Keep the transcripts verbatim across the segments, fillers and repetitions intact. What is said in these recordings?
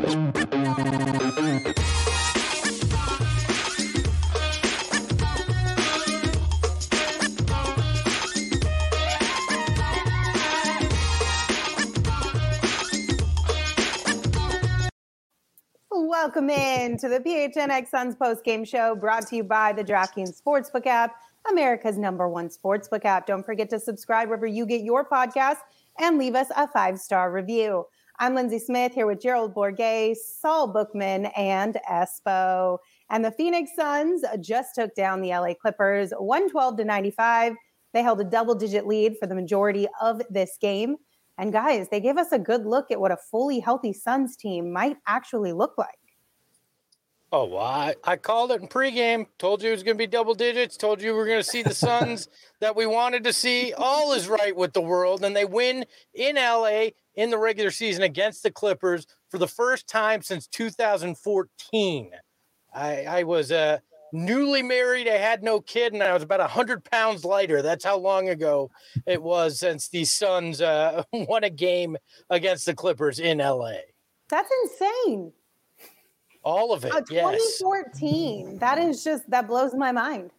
Welcome in to the P H N X Suns post-game show, brought to you by the DraftKings Sportsbook app, America's number one sportsbook app. Don't forget to subscribe wherever you get your podcast and leave us a five-star review. I'm Lindsay Smith here with Gerald Bourguet, Saul Bookman, and Espo. And the Phoenix Suns just took down the L A Clippers one twelve to ninety-five. They held a double-digit lead for the majority of this game. And guys, they gave us a good look at what a fully healthy Suns team might actually look like. Oh, well, I, I called it in pregame, told you it was going to be double digits, told you we were going to see the Suns that we wanted to see. All is right with the world, and they win in L A in the regular season against the Clippers for the first time since two thousand fourteen. I, I was uh, newly married, I had no kid, and I was about one hundred pounds lighter. That's how long ago it was since the Suns uh, won a game against the Clippers in L A. That's insane. All of it, uh, yes. twenty fourteen. That is just, that blows my mind.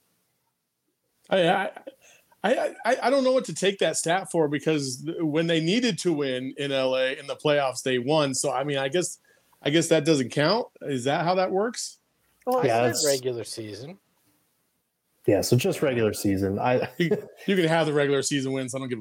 I, I I I don't know what to take that stat for, because when they needed to win in L A in the playoffs, they won. So I mean, I guess I guess that doesn't count. Is that how that works? Well, yeah, it's regular season. Yeah, so just regular season. I you, you can have the regular season wins. I don't give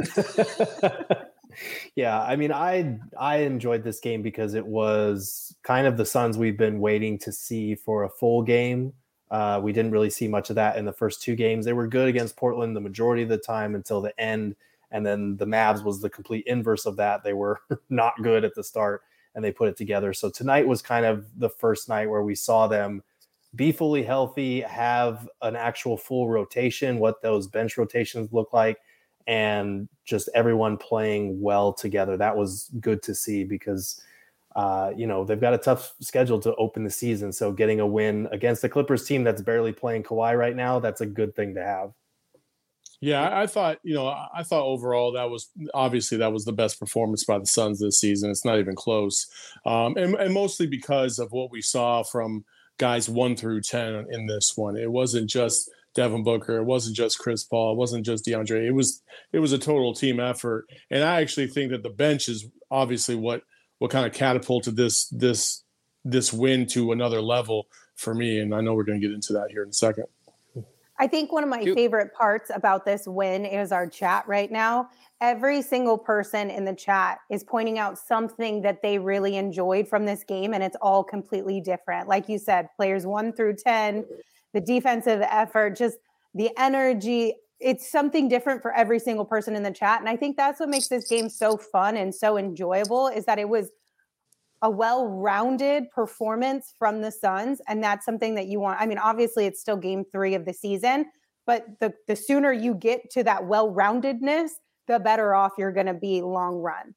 a fuck. Yeah, I mean, I I enjoyed this game because it was kind of the Suns we've been waiting to see for a full game. Uh, we didn't really see much of that in the first two games. They were good against Portland the majority of the time until the end, and then the Mavs was the complete inverse of that. They were not good at the start, and they put it together. So tonight was kind of the first night where we saw them be fully healthy, have an actual full rotation, what those bench rotations look like, and just everyone playing well together. That was good to see because, uh, you know, they've got a tough schedule to open the season. So getting a win against the Clippers team that's barely playing Kawhi right now, that's a good thing to have. Yeah, I, I thought, you know, I thought overall that was obviously that was the best performance by the Suns this season. It's not even close. Um, and, and mostly because of what we saw from guys one through ten in this one. It wasn't just Devin Booker. It wasn't just Chris Paul. It wasn't just DeAndre. It was it was a total team effort. And I actually think that the bench is obviously what what kind of catapulted this this this win to another level for me. And I know we're going to get into that here in a second. I think one of my favorite parts about this win is our chat right now. Every single person in the chat is pointing out something that they really enjoyed from this game, and it's all completely different. Like you said, players one through ten, the defensive effort, just the energy. It's something different for every single person in the chat. And I think that's what makes this game so fun and so enjoyable, is that it was a well-rounded performance from the Suns. And that's something that you want. I mean, obviously it's still game three of the season, but the, the sooner you get to that well-roundedness, the better off you're going to be long run.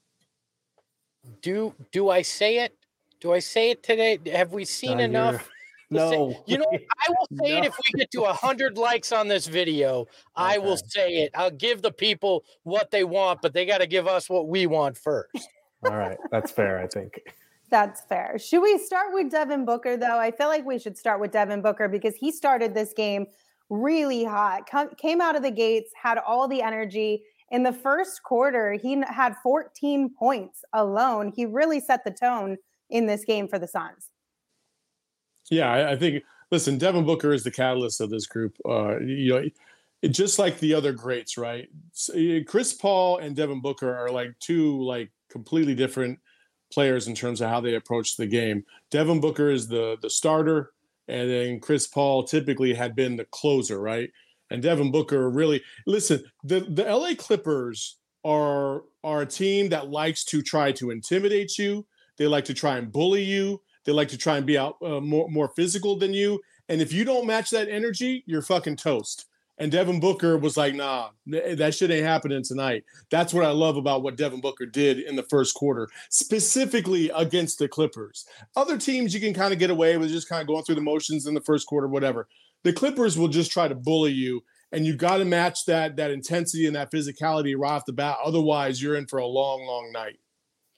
Do, do I say it? Do I say it today? Have we seen No, enough? No. Say, you know, I will say No. it if we get to one hundred likes on this video. I will say it. I'll give the people what they want, but they got to give us what we want first. All right. That's fair, I think. That's fair. Should we start with Devin Booker, though? I feel like we should start with Devin Booker because he started this game really hot, come, came out of the gates, had all the energy. In the first quarter, he had fourteen points alone. He really set the tone in this game for the Suns. Yeah, I, I think, listen, Devin Booker is the catalyst of this group. Uh, you know, it, just like the other greats, right? So, Chris Paul and Devin Booker are like two like completely different players in terms of how they approach the game. Devin Booker is the the starter, and then Chris Paul typically had been the closer, right? And Devin Booker really, listen, the, the L A Clippers are, are a team that likes to try to intimidate you. They like to try and bully you. They like to try and be out uh, more, more physical than you. And if you don't match that energy, you're fucking toast. And Devin Booker was like, nah, that shit ain't happening tonight. That's what I love about what Devin Booker did in the first quarter, specifically against the Clippers. Other teams, you can kind of get away with just kind of going through the motions in the first quarter, whatever. The Clippers will just try to bully you, and you got to match that, that intensity and that physicality right off the bat. Otherwise, you're in for a long, long night.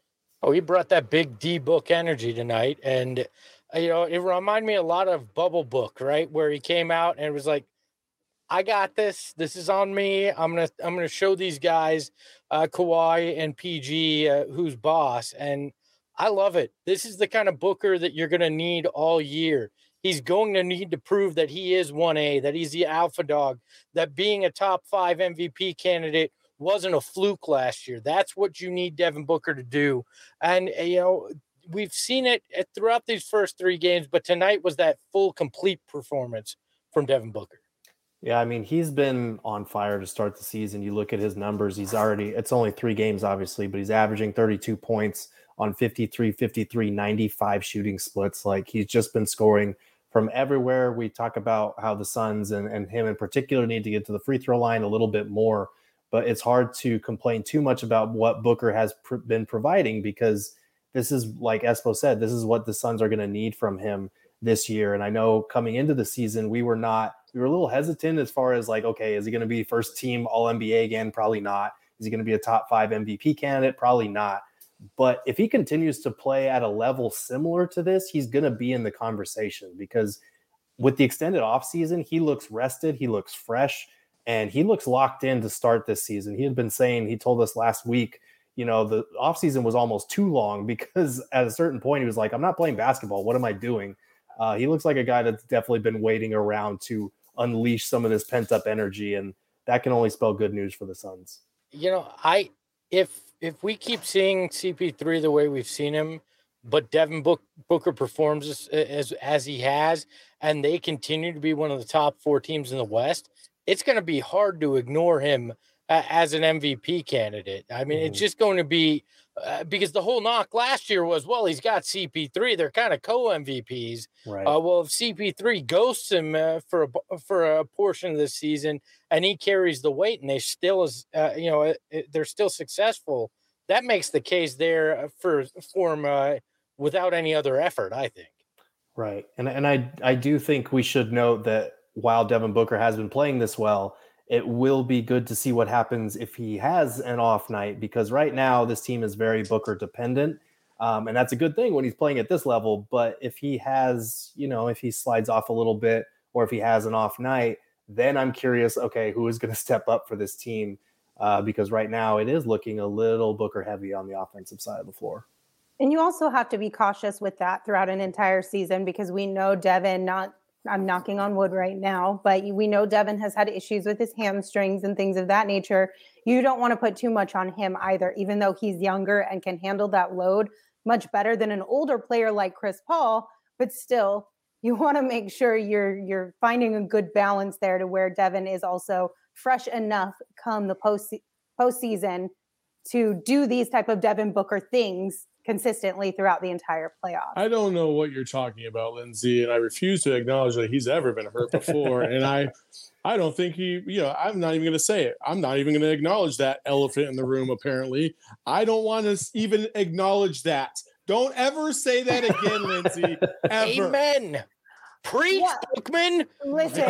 Oh, he brought that big D book energy tonight. And, uh, you know, it reminded me a lot of Bubble Book, right? Where he came out and it was like, I got this. This is on me. I'm going to, I'm going to show these guys, uh, Kawhi and P G, uh, who's boss. And I love it. This is the kind of Booker that you're going to need all year. He's going to need to prove that he is one A, that he's the alpha dog, that being a top five M V P candidate wasn't a fluke last year. That's what you need Devin Booker to do. And, you know, we've seen it throughout these first three games, but tonight was that full, complete performance from Devin Booker. Yeah, I mean, he's been on fire to start the season. You look at his numbers, he's already, it's only three games, obviously, but he's averaging thirty-two points on fifty-three, fifty-three, ninety-five shooting splits. Like, he's just been scoring from everywhere. We talk about how the Suns and, and him in particular need to get to the free throw line a little bit more, but it's hard to complain too much about what Booker has pr- been providing, because this is, like Espo said, this is what the Suns are going to need from him this year. And I know coming into the season, we were not, we were a little hesitant as far as like, okay, is he going to be first team All N B A again? Probably not. Is he going to be a top five M V P candidate? Probably not. But if he continues to play at a level similar to this, he's going to be in the conversation, because with the extended offseason, he looks rested, he looks fresh, and he looks locked in to start this season. He had been saying, he told us last week, you know, the offseason was almost too long, because at a certain point he was like, I'm not playing basketball. What am I doing? Uh, he looks like a guy that's definitely been waiting around to unleash some of this pent-up energy, and that can only spell good news for the Suns. You know, I if if we keep seeing C P three the way we've seen him, but Devin Book, Booker performs as, as as he has, and they continue to be one of the top four teams in the West, it's going to be hard to ignore him uh, as an M V P candidate. I mean, mm-hmm. it's just going to be uh, because the whole knock last year was, well, he's got C P three. They're kind of co-M V Ps. Right. Uh, well, if C P three ghosts him uh, for a, for a portion of the season and he carries the weight and they still is, uh, you know, they're still successful, that makes the case there for, for him uh, without any other effort, I think. Right. And, and I, I do think we should note that while Devin Booker has been playing this well, it will be good to see what happens if he has an off night, because right now this team is very Booker dependent. Um, and that's a good thing when he's playing at this level. But if he has, you know, if he slides off a little bit, or if he has an off night, then I'm curious, okay, who is going to step up for this team? Uh, because right now it is looking a little Booker heavy on the offensive side of the floor. And you also have to be cautious with that throughout an entire season, because we know Devin, not I'm knocking on wood right now, but we know Devin has had issues with his hamstrings and things of that nature. You don't want to put too much on him either, even though he's younger and can handle that load much better than an older player like Chris Paul. But still, you want to make sure you're you're finding a good balance there to where Devin is also fresh enough come the post postseason to do these type of Devin Booker things consistently throughout the entire playoffs. I don't know what you're talking about, Lindsay, and I refuse to acknowledge that he's ever been hurt before. and I, I don't think he, you know, I'm not even going to say it. I'm not even going to acknowledge that elephant in the room. Apparently, I don't want to even acknowledge that. Don't ever say that again, Lindsay. Ever. Amen. Preach, yeah. Bookman. Listen,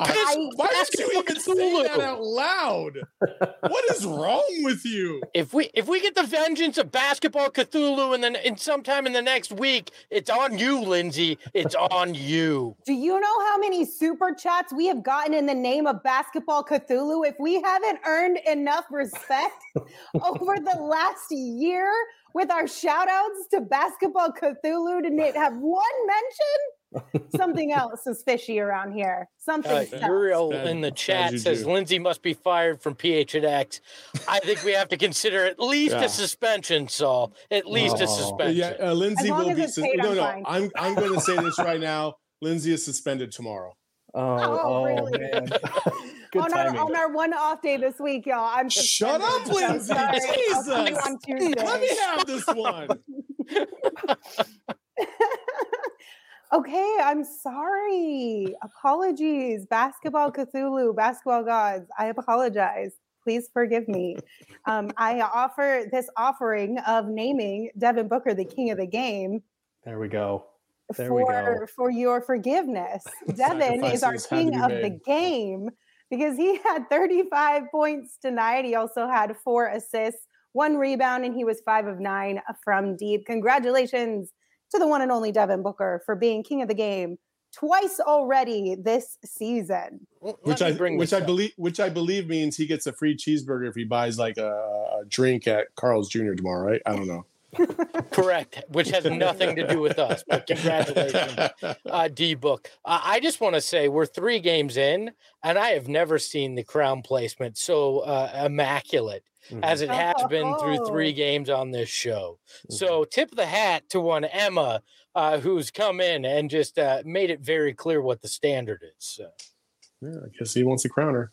I, why did you even say that out loud? What is wrong with you? If we if we get the vengeance of Basketball Cthulhu and then in sometime in the next week, it's on you, Lindsay. It's on you. Do you know how many super chats we have gotten in the name of Basketball Cthulhu? If we haven't earned enough respect over the last year with our shout outs to Basketball Cthulhu to have one mention, something else is fishy around here. Something uh, Uriel in the chat says do. Lindsay must be fired from P H and X. I think we have to consider at least yeah. a suspension, Saul. At least oh. a suspension. Yeah, uh, Lindsay will be. Sus- no, no. Fine. I'm I'm going to say this right now. Lindsay is suspended tomorrow. Oh, oh, oh really? Man. Good on, our, on our one off day this week, y'all. I'm Shut up, Lindsay. Jesus. On Tuesday. Let me have this one. Okay, I'm sorry. Apologies. Basketball Cthulhu, basketball gods. I apologize. Please forgive me. Um, I offer this offering of naming Devin Booker the king of the game. There we go. There for, we go. For your forgiveness. Devin is our king of the game because he had thirty-five points tonight. He also had four assists, one rebound, and he was five of nine from deep. Congratulations to the one and only Devin Booker for being king of the game twice already this season. Which I which I believe which I believe means he gets a free cheeseburger if he buys like a, a drink at Carl's Junior tomorrow, right? I don't know. Correct, which has nothing to do with us, but congratulations, uh, D-Book. Uh, I just want to say we're three games in, and I have never seen the crown placement so uh, immaculate mm-hmm. as it has oh. been through three games on this show. Mm-hmm. So tip the hat to one Emma, uh, who's come in and just uh, made it very clear what the standard is. So. Yeah, I guess he wants a crowner.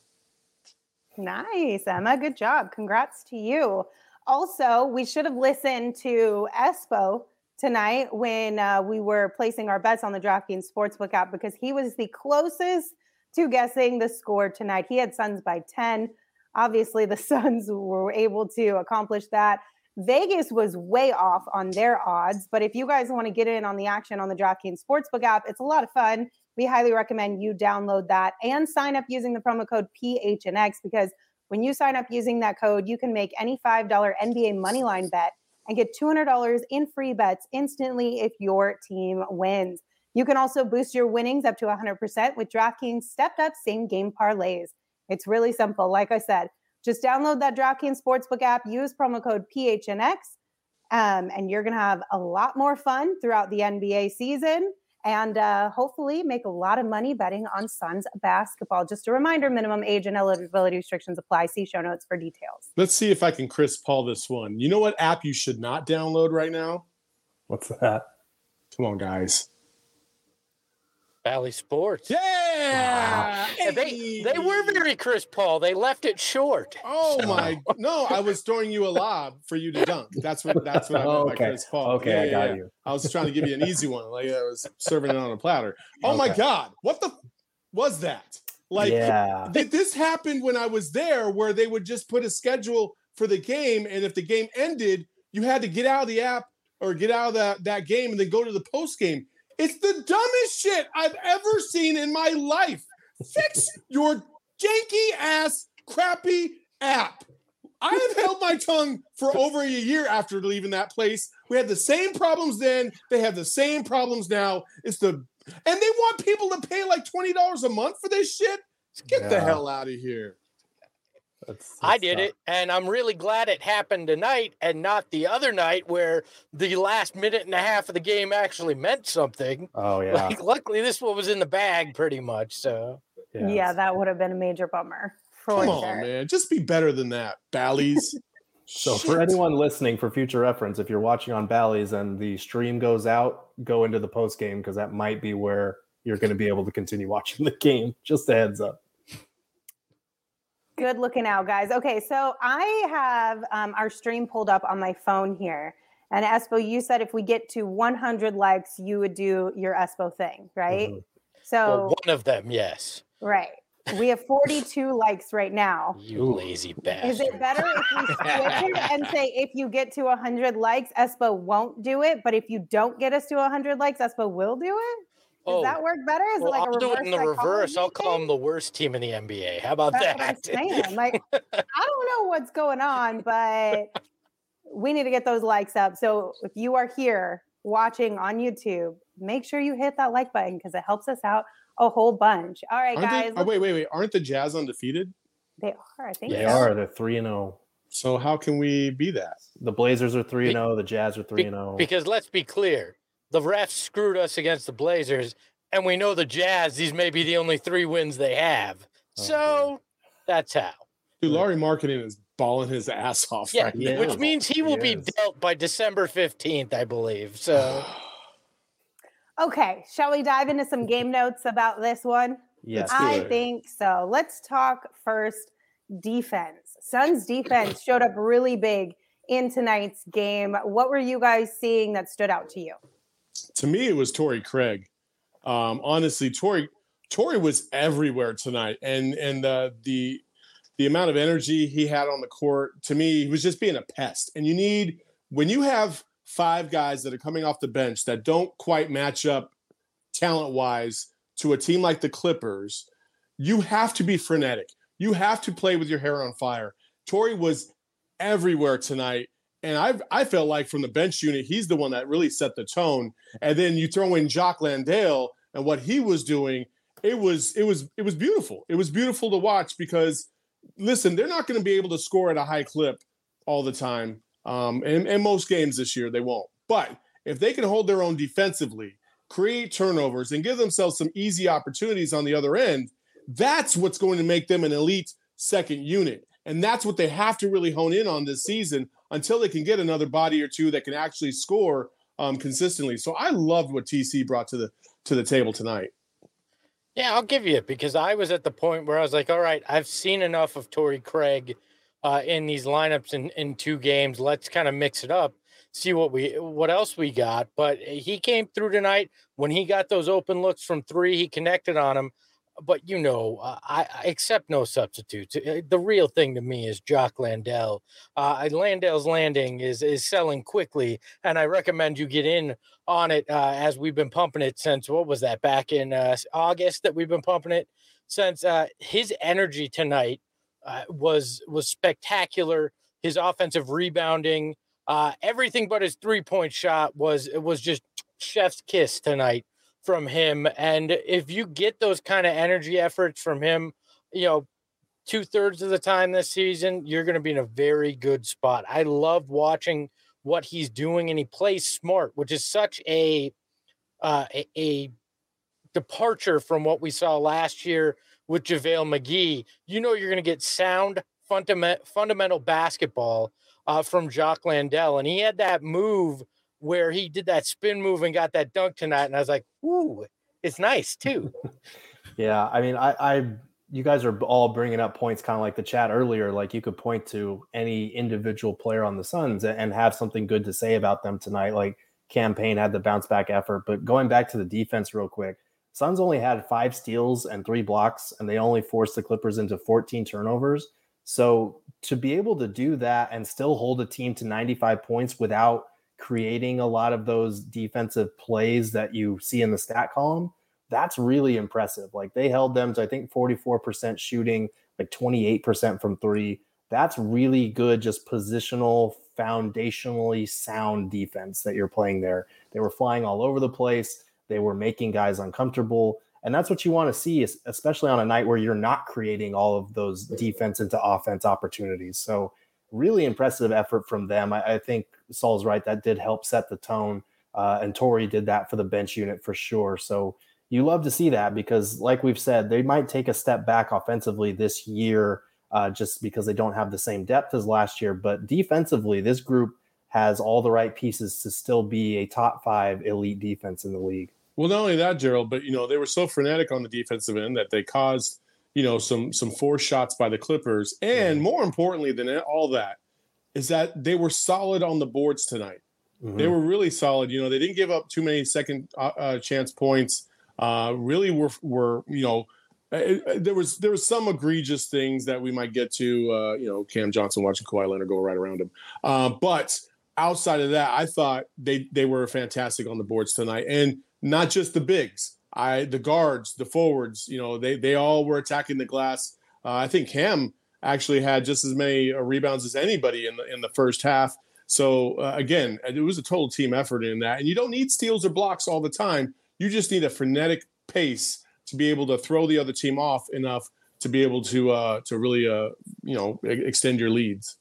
Nice, Emma. Good job. Congrats to you. Also, we should have listened to Espo tonight when uh, we were placing our bets on the DraftKings Sportsbook app because he was the closest to guessing the score tonight. He had Suns by ten. Obviously, the Suns were able to accomplish that. Vegas was way off on their odds, but if you guys want to get in on the action on the DraftKings Sportsbook app, it's a lot of fun. We highly recommend you download that and sign up using the promo code P H N X because when you sign up using that code, you can make any five dollars N B A moneyline bet and get two hundred dollars in free bets instantly if your team wins. You can also boost your winnings up to one hundred percent with DraftKings stepped up same game parlays. It's really simple. Like I said, just download that DraftKings Sportsbook app, use promo code P H N X, um, and you're going to have a lot more fun throughout the N B A season. And uh, hopefully make a lot of money betting on Suns basketball. Just a reminder, minimum age and eligibility restrictions apply. See show notes for details. Let's see if I can Chris Paul this one. You know what app you should not download right now? What's that? Come on, guys. Bally Sports. Yeah! Wow. They they were very Chris Paul. They left it short. Oh so. my! No, I was throwing you a lob for you to dunk. That's what that's what I meant okay. by Chris Paul. Okay, yeah, I got yeah. you. I was trying to give you an easy one, like I was serving it on a platter. Oh okay. my God! What the was that? Like, yeah. th- this happened when I was there, where they would just put a schedule for the game, and if the game ended, you had to get out of the app or get out of that that game and then go to the post game. It's the dumbest shit I've ever seen in my life. Fix your janky ass, crappy app. I have held my tongue for over a year after leaving that place. We had the same problems then. They have the same problems now. It's the and they want people to pay like twenty dollars a month for this shit. Get yeah. the hell out of here. That's, that's I did tough. it, and I'm really glad it happened tonight and not the other night where the last minute and a half of the game actually meant something. Oh, yeah. Like, luckily, this one was in the bag pretty much. So Yeah, yeah that would have been a major bummer. For Come sure. on, man. Just be better than that, Bally's. So Shit. For anyone listening, for future reference, if you're watching on Bally's and the stream goes out, go into the post game because that might be where you're going to be able to continue watching the game. Just a heads up. Good looking out, guys. Okay, so I have um, our stream pulled up on my phone here. And Espo, you said if we get to one hundred likes, you would do your Espo thing, right? Mm-hmm. So well, one of them, yes. Right. We have forty-two likes right now. You lazy bastard. Is it better if we switch it and say if you get to one hundred likes, Espo won't do it, but if you don't get us to one hundred likes, Espo will do it? Does oh, that work better? Is well, it like I'll a do it in the reverse. I'll call thing? them the worst team in the N B A. How about That's that? What I'm saying. Like, I don't know what's going on, but we need to get those likes up. So if you are here watching on YouTube, make sure you hit that like button because it helps us out a whole bunch. All right, Aren't guys. They, oh, wait, wait, wait. Aren't the Jazz undefeated? They are, I think. They so. are. They're three and zero. So how can we be that? The Blazers are three and zero. The Jazz are three and zero. Because let's be clear, the refs screwed us against the Blazers. And we know the Jazz, these may be the only three wins they have. So okay. that's how. Dude, Laurie Marketing is balling his ass off yeah, right now. Which means he will he be dealt by December fifteenth, I believe. So, okay. Shall we dive into some game notes about this one? Yes. I think so. Let's talk first defense. Suns defense showed up really big in tonight's game. What were you guys seeing that stood out to you? To me, it was Torrey Craig. Um, honestly, Torrey, Torrey was everywhere tonight, and and uh, the the amount of energy he had on the court, to me, he was just being a pest. And you need when you have five guys that are coming off the bench that don't quite match up talent wise to a team like the Clippers, you have to be frenetic. You have to play with your hair on fire. Torrey was everywhere tonight. And I I felt like from the bench unit, he's the one that really set the tone. And then you throw in Jock Landale and what he was doing. It was it was it was beautiful. It was beautiful to watch because, listen, they're not going to be able to score at a high clip all the time. Um, and, and most games this year, they won't. But if they can hold their own defensively, create turnovers, and give themselves some easy opportunities on the other end, that's what's going to make them an elite second unit. And that's what they have to really hone in on this season until they can get another body or two that can actually score um, consistently. So I loved what T C brought to the to the table tonight. Yeah, I'll give you it because I was at the point where I was like, all right, I've seen enough of Torrey Craig uh, in these lineups in, in two games. Let's kind of mix it up, see what we what else we got. But he came through tonight. When he got those open looks from three, he connected on them. But, you know, uh, I, I accept no substitutes. The real thing to me is Jock Landale. Uh, Landale's Landing is is selling quickly, and I recommend you get in on it uh, as we've been pumping it since, what was that, back in uh, August that we've been pumping it since. Uh, his energy tonight uh, was was spectacular. His offensive rebounding, uh, everything but his three-point shot was it was just chef's kiss tonight from him. And if you get those kind of energy efforts from him, you know, two thirds of the time this season, you're going to be in a very good spot. I love watching what he's doing, and he plays smart, which is such a, uh, a, a departure from what we saw last year with JaVale McGee. You know, you're going to get sound fundament, fundamental basketball uh, from Jock Landale. And he had that move where he did that spin move and got that dunk tonight. And I was like, ooh, it's nice too. Yeah. I mean, I, I, you guys are all bringing up points kind of like the chat earlier. Like you could point to any individual player on the Suns and have something good to say about them tonight. Like Cam Payne had the bounce back effort, but going back to the defense real quick, Suns only had five steals and three blocks, and they only forced the Clippers into fourteen turnovers. So to be able to do that and still hold a team to ninety-five points without creating a lot of those defensive plays that you see in the stat column, that's really impressive. Like they held them to, I think, forty-four percent shooting, like twenty-eight percent from three. That's really good, just positional, foundationally sound defense that you're playing there. They were flying all over the place. They were making guys uncomfortable. And that's what you want to see, especially on a night where you're not creating all of those defense into offense opportunities. So really impressive effort from them. I, I think Saul's right. That did help set the tone. Uh, and Torrey did that for the bench unit for sure. So you love to see that because, like we've said, they might take a step back offensively this year uh, just because they don't have the same depth as last year. But defensively, this group has all the right pieces to still be a top five elite defense in the league. Well, not only that, Gerald, but, you know, they were so frenetic on the defensive end that they caused, you know, some some forced shots by the Clippers. And more importantly than all that is that they were solid on the boards tonight. Mm-hmm. They were really solid. You know, they didn't give up too many second uh, chance points. Uh, really were, were you know, uh, there was there was some egregious things that we might get to, uh, you know, Cam Johnson watching Kawhi Leonard go right around him. Uh, but outside of that, I thought they they were fantastic on the boards tonight. And not just the bigs, I the guards, the forwards, you know, they they all were attacking the glass. Uh, I think Cam actually had just as many uh, rebounds as anybody in the in the first half. So uh, again, it was a total team effort in that. And you don't need steals or blocks all the time. You just need a frenetic pace to be able to throw the other team off enough to be able to uh, to really uh, you know extend your leads.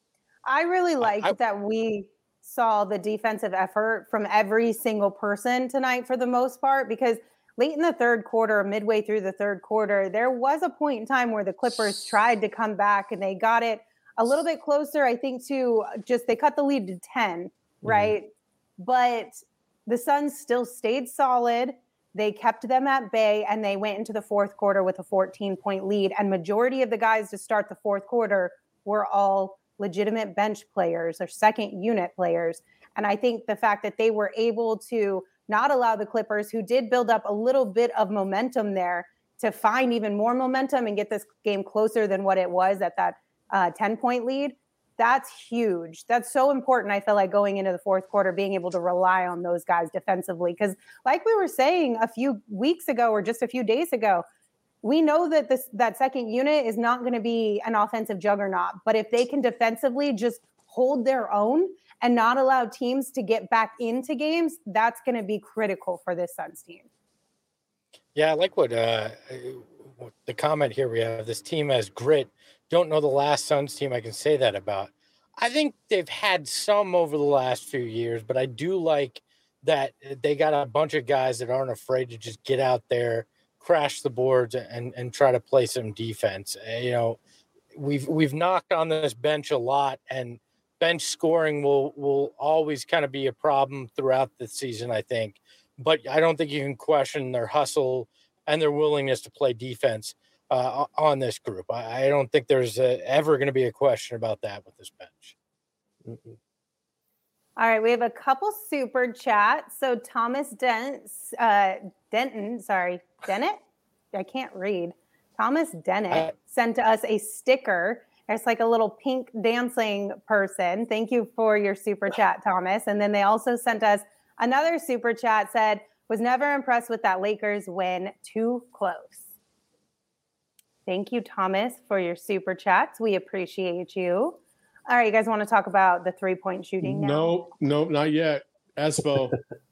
I really liked I, I, that we saw the defensive effort from every single person tonight for the most part, because late in the third quarter, midway through the third quarter, there was a point in time where the Clippers tried to come back and they got it a little bit closer, I think, to just they cut the lead to ten, right? Mm-hmm. But the Suns still stayed solid. They kept them at bay, and they went into the fourth quarter with a fourteen-point lead. And majority of the guys to start the fourth quarter were all legitimate bench players or second unit players. And I think the fact that they were able to not allow the Clippers, who did build up a little bit of momentum there, to find even more momentum and get this game closer than what it was at that uh, ten-point lead, that's huge. That's so important, I feel like, going into the fourth quarter, being able to rely on those guys defensively. Because like we were saying a few weeks ago or just a few days ago, we know that this that second unit is not going to be an offensive juggernaut, but if they can defensively just hold their own and not allow teams to get back into games, that's going to be critical for this Suns team. Yeah, I like what uh, the comment here we have. This team has grit. Don't know the last Suns team I can say that about. I think they've had some over the last few years, but I do like that they got a bunch of guys that aren't afraid to just get out there, crash the boards, and and try to play some defense. You know, we've we've knocked on this bench a lot, and bench scoring will will always kind of be a problem throughout the season, I think. But I don't think you can question their hustle and their willingness to play defense uh, on this group. I, I don't think there's a, ever going to be a question about that with this bench. Mm-hmm. All right, we have a couple super chats. So Thomas Dent, uh, Denton, sorry, Dennett? I can't read. Thomas Dennett uh, sent us a sticker. It's like a little pink dancing person. Thank you for your super chat, Thomas. And then they also sent us another super chat, said, was never impressed with that Lakers win. Too close. Thank you, Thomas, for your super chats. We appreciate you. All right, you guys want to talk about the three-point shooting now? No, no, not yet. Espo.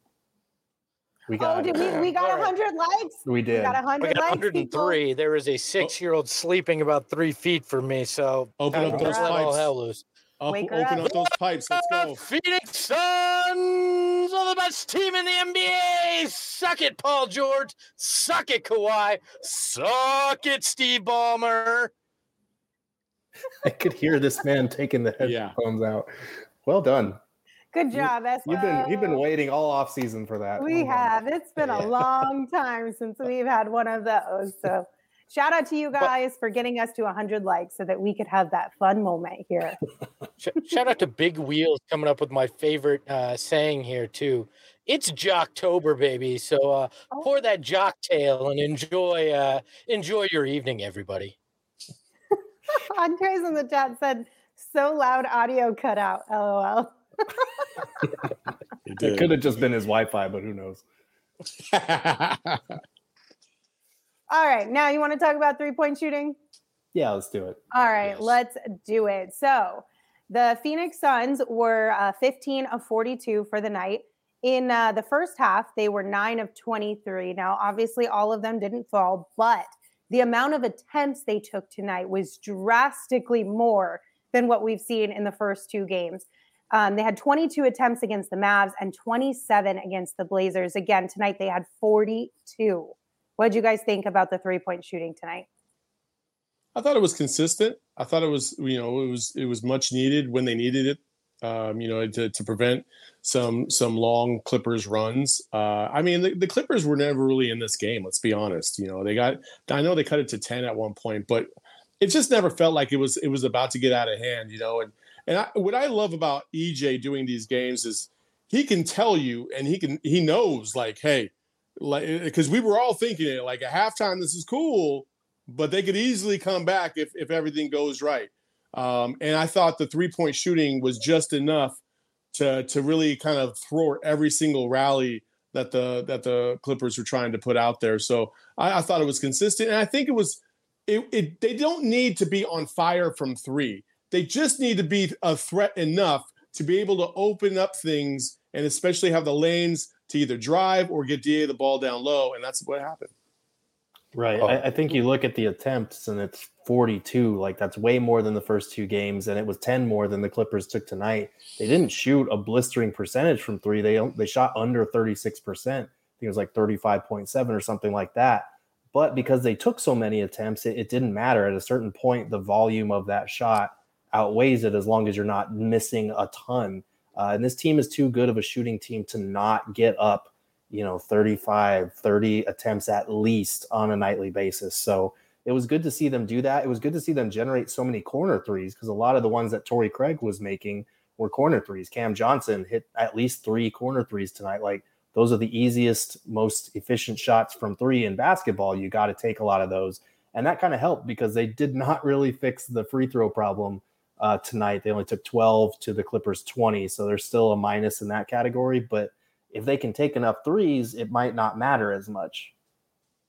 we got oh, did we, we got one hundred likes? We did. We got one hundred we got likes, one hundred three. People. There is a six-year-old sleeping about three feet from me, so open up those pipes. Hell loose. Up, open up. up those pipes. Let's go. Phoenix Suns are the best team in the N B A. Suck it, Paul George. Suck it, Kawhi. Suck it, Steve Ballmer. I could hear this man taking the headphones yeah. out. Well done. Good job, Espo. You've been you've been waiting all off season for that. We well have. Done. It's been a long time since we've had one of those. So shout out to you guys for getting us to one hundred likes so that we could have that fun moment here. Shout out to Big Wheels coming up with my favorite uh, saying here, too. It's Jocktober, baby. So uh, oh. pour that Jocktail and enjoy uh, enjoy your evening, everybody. Andres in the chat said, so loud audio cut out. LOL. It could have just been his Wi-Fi, but who knows? All right. Now you want to talk about three-point shooting? Yeah, let's do it. All right. Yes. Let's do it. So the Phoenix Suns were uh, fifteen of forty-two for the night. In uh, the first half, they were nine of twenty-three. Now, obviously, all of them didn't fall, but the amount of attempts they took tonight was drastically more than what we've seen in the first two games. Um, they had twenty-two attempts against the Mavs and twenty-seven against the Blazers. Again, tonight they had forty-two. What did you guys think about the three-point shooting tonight? I thought it was consistent. I thought it was, you know, it was it was much needed when they needed it. Um, you know, to, to prevent some some long Clippers runs. Uh, I mean, the, the Clippers were never really in this game. Let's be honest. You know, they got. I know they cut it to ten at one point, but it just never felt like it was it was about to get out of hand. You know, and and I, what I love about E J doing these games is he can tell you, and he can he knows like, hey, like because we were all thinking it like at halftime, this is cool, but they could easily come back if if everything goes right. Um, and I thought the three-point shooting was just enough to to really kind of throw every single rally that the that the Clippers were trying to put out there. So I, I thought it was consistent, and I think it was. It, it they don't need to be on fire from three. They just need to be a threat enough to be able to open up things, and especially have the lanes to either drive or get D A the ball down low, and that's what happened. Right. Oh. I, I think you look at the attempts and it's forty-two. Like that's way more than the first two games, and it was ten more than the Clippers took tonight. They didn't shoot a blistering percentage from three. They they shot under thirty-six percent. I think it was like thirty-five point seven or something like that. But because they took so many attempts, it, it didn't matter. At a certain point, the volume of that shot outweighs it as long as you're not missing a ton. Uh, and this team is too good of a shooting team to not get up, you know, thirty-five, thirty attempts at least on a nightly basis. So it was good to see them do that. It was good to see them generate so many corner threes because a lot of the ones that Torrey Craig was making were corner threes. Cam Johnson hit at least three corner threes tonight. Like those are the easiest, most efficient shots from three in basketball. You got to take a lot of those. And that kind of helped because they did not really fix the free throw problem uh, tonight. They only took twelve to the Clippers twenty. So there's still a minus in that category, but if they can take enough threes, it might not matter as much.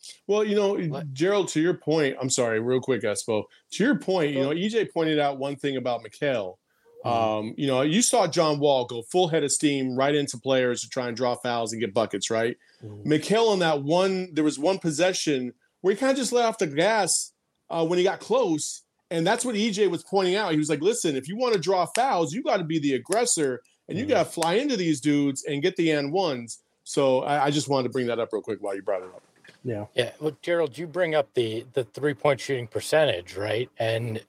Well, you know, what? Gerald, to your point, I'm sorry, real quick, Espo. To your point, you know, E J pointed out one thing about Mikal. Mm-hmm. Um, you know, you saw John Wall go full head of steam right into players to try and draw fouls and get buckets, right? Mm-hmm. Mikal on that one, there was one possession where he kind of just let off the gas uh, when he got close. And that's what E J was pointing out. He was like, listen, if you want to draw fouls, you got to be the aggressor and you mm-hmm. got to fly into these dudes and get the and ones. So I, I just wanted to bring that up real quick while you brought it up. Yeah. Yeah. Well, Gerald, you bring up the the three point shooting percentage, right? And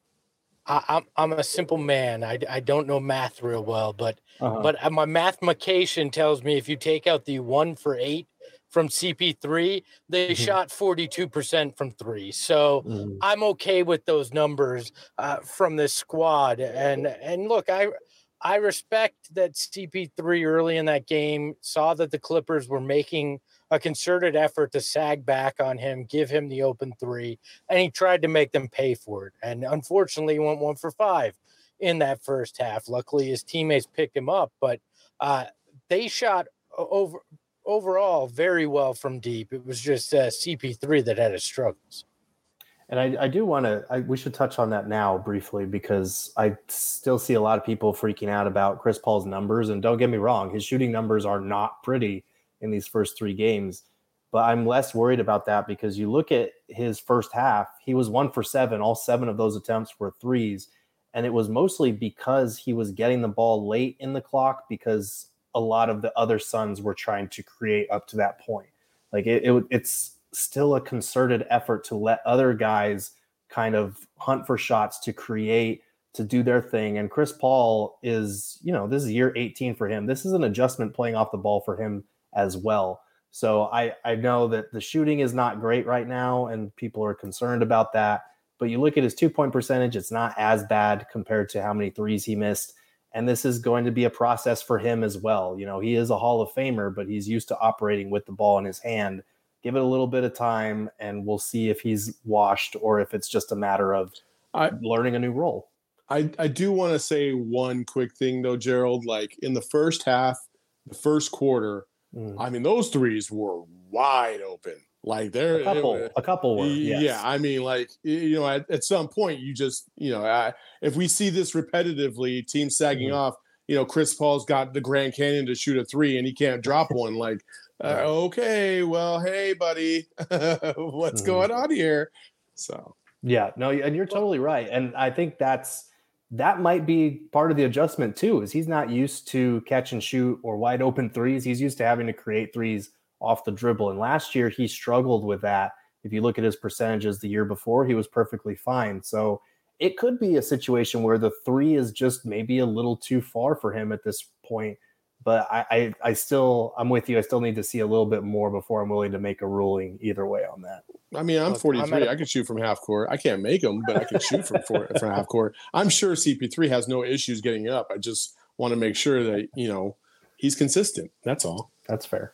I, I'm I'm a simple man. I, I don't know math real well, but uh-huh. but my mathematician tells me if you take out the one for eight from C P three, they mm-hmm. shot forty-two percent from three. So mm-hmm. I'm okay with those numbers uh, from this squad. And and look, I. I respect that C P three early in that game saw that the Clippers were making a concerted effort to sag back on him, give him the open three, and he tried to make them pay for it. And unfortunately, he went one for five in that first half. Luckily, his teammates picked him up, but uh, they shot over overall very well from deep. It was just uh, C P three that had his struggles. And I, I do want to, we should touch on that now briefly, because I still see a lot of people freaking out about Chris Paul's numbers. And don't get me wrong, his shooting numbers are not pretty in these first three games. But I'm less worried about that because you look at his first half, he was one for seven. All seven of those attempts were threes. And it was mostly because he was getting the ball late in the clock because a lot of the other Suns were trying to create up to that point. Like it, it it's, still a concerted effort to let other guys kind of hunt for shots to create, to do their thing. And Chris Paul is, you know, this is year eighteen for him. This is an adjustment playing off the ball for him as well. So I, I know that the shooting is not great right now and people are concerned about that, but you look at his two point percentage, it's not as bad compared to how many threes he missed. And this is going to be a process for him as well. You know, he is a Hall of Famer, but he's used to operating with the ball in his hand. Give it a little bit of time and we'll see if he's washed or if it's just a matter of I, learning a new role. I, I do want to say one quick thing though, Gerald, like in the first half, the first quarter, mm. I mean, those threes were wide open. Like there, a couple, it, a couple were. Yeah. Yes. I mean, like, you know, at, at some point you just, you know, I, if we see this repetitively, teams sagging mm. off, you know, Chris Paul's got the Grand Canyon to shoot a three and he can't drop one. Like, Uh, okay, well, hey, buddy, what's mm. going on here? So, yeah, no, and you're totally right. And I think that's that might be part of the adjustment too, is he's not used to catch and shoot or wide open threes. He's used to having to create threes off the dribble. And last year he struggled with that. If you look at his percentages the year before, he was perfectly fine. So it could be a situation where the three is just maybe a little too far for him at this point. But I, I, I still, I'm with you. I still need to see a little bit more before I'm willing to make a ruling either way on that. I mean, I'm forty-three. I'm a, I can shoot from half court. I can't make them, but I can shoot from, for, from half court. I'm sure C P three has no issues getting up. I just want to make sure that, you know, he's consistent. That's all. That's fair.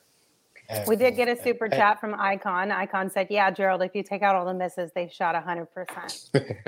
We did get a super chat from Icon. Icon said, yeah, Gerald, if you take out all the misses, they shot one hundred percent.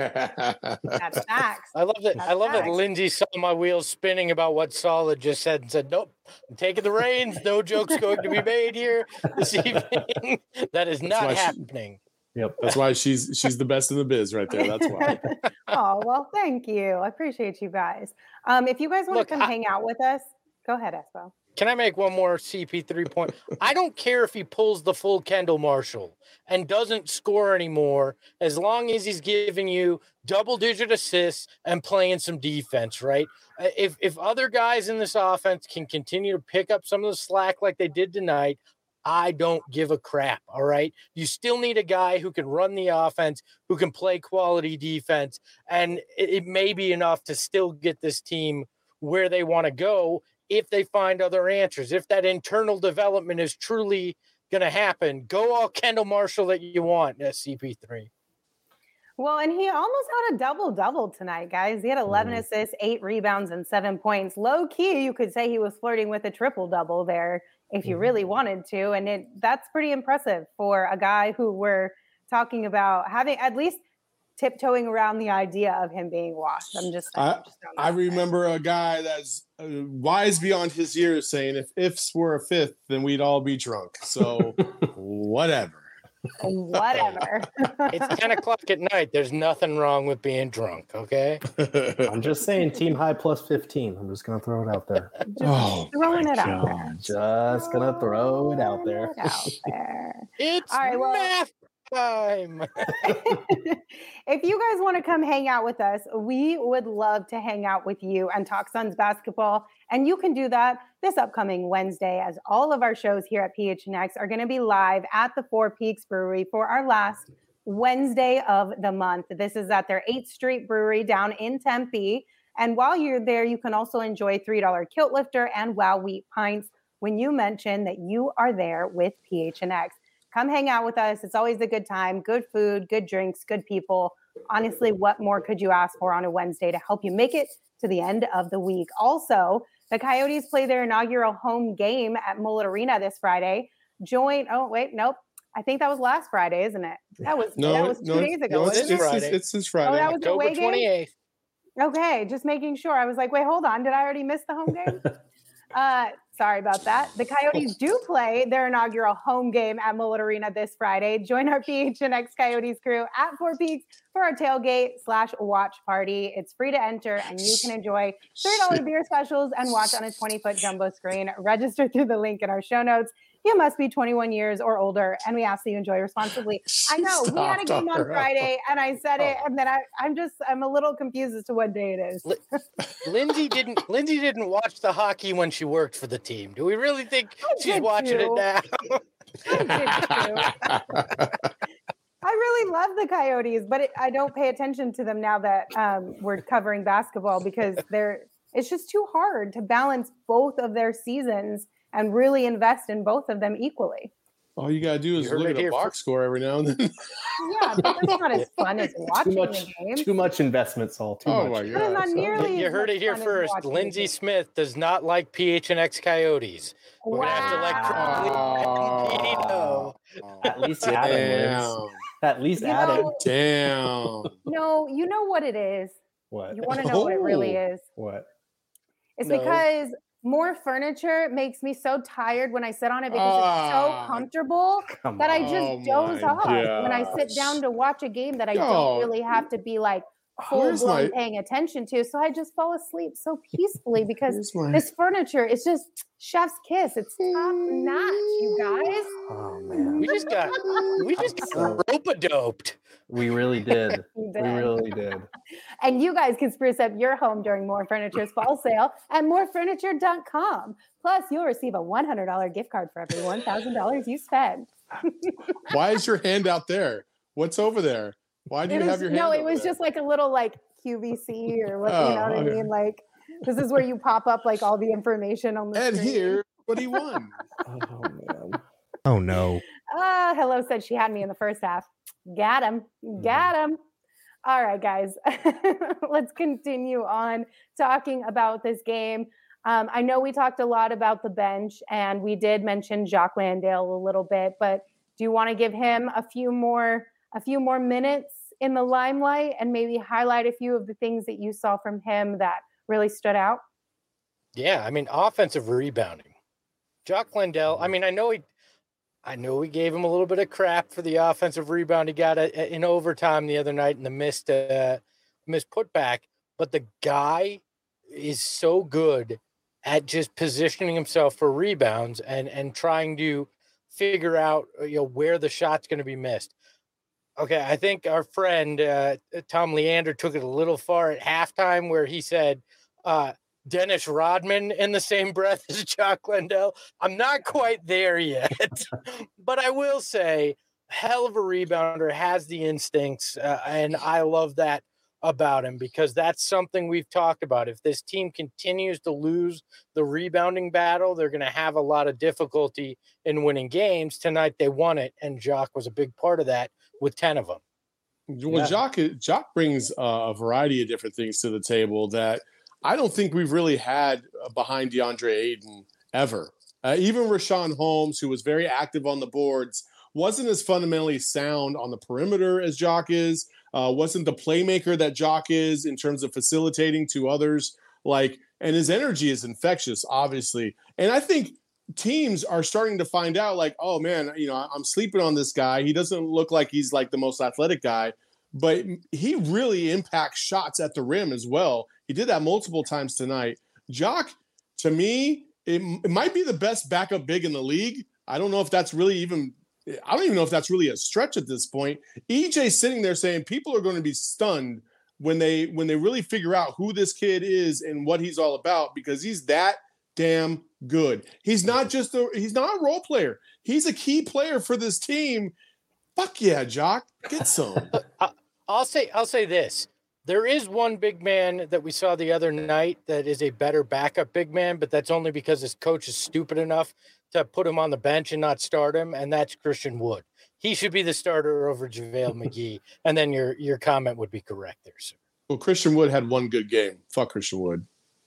That's facts. I love that. That's I love facts. that Lindsay saw my wheels spinning about what Solid just said and said, nope, I'm taking the reins. No joke's going to be made here this evening. That is not happening. She, yep. That's why she's she's the best in the biz right there. That's why. Oh, well, thank you. I appreciate you guys. Um, if you guys want Look, to come I, hang out with us, go ahead, Espo. Can I make one more C P three point? I don't care if he pulls the full Kendall Marshall and doesn't score anymore, as long as he's giving you double-digit assists and playing some defense, right? If if other guys in this offense can continue to pick up some of the slack like they did tonight, I don't give a crap, all right? You still need a guy who can run the offense, who can play quality defense, and it, it may be enough to still get this team where they want to go if they find other answers. If that internal development is truly going to happen, go all Kendall Marshall that you want at C P three. Well, and he almost had a double-double tonight, guys. He had eleven mm. assists, eight rebounds, and seven points. Low-key, you could say he was flirting with a triple-double there if you mm. really wanted to. And it that's pretty impressive for a guy who we're talking about having at least tiptoeing around the idea of him being washed. I'm just, I, I'm just I remember a guy that's uh, wise beyond his years saying if ifs were a fifth, then we'd all be drunk. So whatever. Whatever. It's ten o'clock at night. There's nothing wrong with being drunk, okay? I'm just saying team high plus fifteen. I'm just going to throw it out there. Just oh, throwing it out there. Just going to throw it out there. It out there. It's All right, well, math time. If you guys want to come hang out with us, we would love to hang out with you and talk Suns basketball. And you can do that this upcoming Wednesday, as all of our shows here at P H N X are going to be live at the Four Peaks Brewery for our last Wednesday of the month. This is at their eighth Street Brewery down in Tempe. And while you're there, you can also enjoy three dollar Kilt Lifter and Wow Wheat Pints when you mention that you are there with P H N X. Come hang out with us. It's always a good time, good food, good drinks, good people. Honestly, what more could you ask for on a Wednesday to help you make it to the end of the week? Also, the Coyotes play their inaugural home game at Mullet Arena this Friday. Join, oh, wait, nope. I think that was last Friday, isn't it? That was, no, that was two no, days ago. No, it's, it's, it's, Friday. It's, it's Friday. Oh, that was October twenty-eighth. Okay, just making sure. I was like, wait, hold on. Did I already miss the home game? uh, sorry about that. The Coyotes do play their inaugural home game at Mullet Arena this Friday. Join our P H N X Coyotes crew at Four Peaks for our tailgate slash watch party. It's free to enter, and you can enjoy three dollar beer specials and watch on a twenty-foot jumbo screen. Register through the link in our show notes. You must be twenty-one years or older, and we ask that you enjoy responsibly. I know we had a game on Friday, and I said it, and then I, I'm just I'm a little confused as to what day it is. Lindsay didn't Lindsay didn't watch the hockey when she worked for the team. Do we really think I she's did watching too. it now? I did too. I really love the Coyotes, but it, I don't pay attention to them now that um, we're covering basketball because they're it's just too hard to balance both of their seasons and really invest in both of them equally. All you gotta do is look at a box for- score every now and then. Yeah, but that's not as fun as watching Too much, the game. too much investment, Saul. Too Oh much. my But it's not God. nearly You as heard much it here fun as first. watching the Lindsay game. Smith does not like P H N X Coyotes. We're gonna have to let Wow. Crowley and Petey know. At least Adam wins. Damn. At least You Adam. know- Damn. No, you know what it is. What? You want to know what it really Oh. is. What? It's No. because more furniture makes me so tired when I sit on it because it's so Ah. comfortable Come that I on. just Oh doze my off when I sit gosh. down to watch a game that I Oh. don't really have to be like full Where's blown my- paying attention to. So I just fall asleep so peacefulully because Here's my- this furniture is just chef's kiss. It's top notch, you guys. Oh man, We just got we just got rope-a-doped. we really did. You We did. really did. And you guys can spruce up your home during More Furniture's fall sale at more furniture dot com. Plus, you'll receive a one hundred dollars gift card for every one thousand dollars you spend. Why is your hand out there? What's over there? Why do It you was- have your hand no, it over was there? just like a little like Q V C or what, Oh, you know what okay. I mean? Like, this is where you pop up like all the information on the And screen. here, what he won. Oh man. Oh no. Ah, Hello said she had me in the first half. Got him. Got him. All right, guys. Let's continue on talking about this game. Um, I know we talked a lot about the bench, and we did mention Jacques Landale a little bit, but do you want to give him a few more a few more minutes in the limelight and maybe highlight a few of the things that you saw from him that really stood out? Yeah, I mean, offensive rebounding. Jock Landale, I mean, I know he I know we gave him a little bit of crap for the offensive rebound he got a, in overtime the other night in the missed uh, missed putback, but the guy is so good at just positioning himself for rebounds and and trying to figure out, you know, where the shot's going to be missed. Okay, I think our friend uh, Tom Leander took it a little far at halftime where he said uh, Dennis Rodman in the same breath as Jock Landale. I'm not quite there yet, but I will say, hell of a rebounder, has the instincts, uh, and I love that about him because that's something we've talked about. If this team continues to lose the rebounding battle, they're going to have a lot of difficulty in winning games. Tonight they won it, and Jock was a big part of that with ten of them. Well, Yeah. Jock, Jock brings uh, a variety of different things to the table that I don't think we've really had uh, behind DeAndre Ayton ever. Uh, even Rashawn Holmes, who was very active on the boards, wasn't as fundamentally sound on the perimeter as Jock is, uh, wasn't the playmaker that Jock is in terms of facilitating to others. Like, and his energy is infectious, obviously. And I think teams are starting to find out like, oh man, you know, I'm sleeping on this guy. He doesn't look like he's like the most athletic guy, but he really impacts shots at the rim as well. He did that multiple times tonight. Jock, to me, it, it might be the best backup big in the league. I don't know if that's really even, I don't even know if that's really a stretch at this point. E J's sitting there saying people are going to be stunned when they when they really figure out who this kid is and what he's all about, because he's that damn good. He's not just a he's not a role player. He's a key player for this team. Fuck yeah, Jock. Get some. I'll say I'll say this. There is one big man that we saw the other night that is a better backup big man, but that's only because his coach is stupid enough to put him on the bench and not start him, and that's Christian Wood. He should be the starter over JaVale McGee, and then your your comment would be correct there, sir. Well, Christian Wood had one good game. Fuck Christian Wood.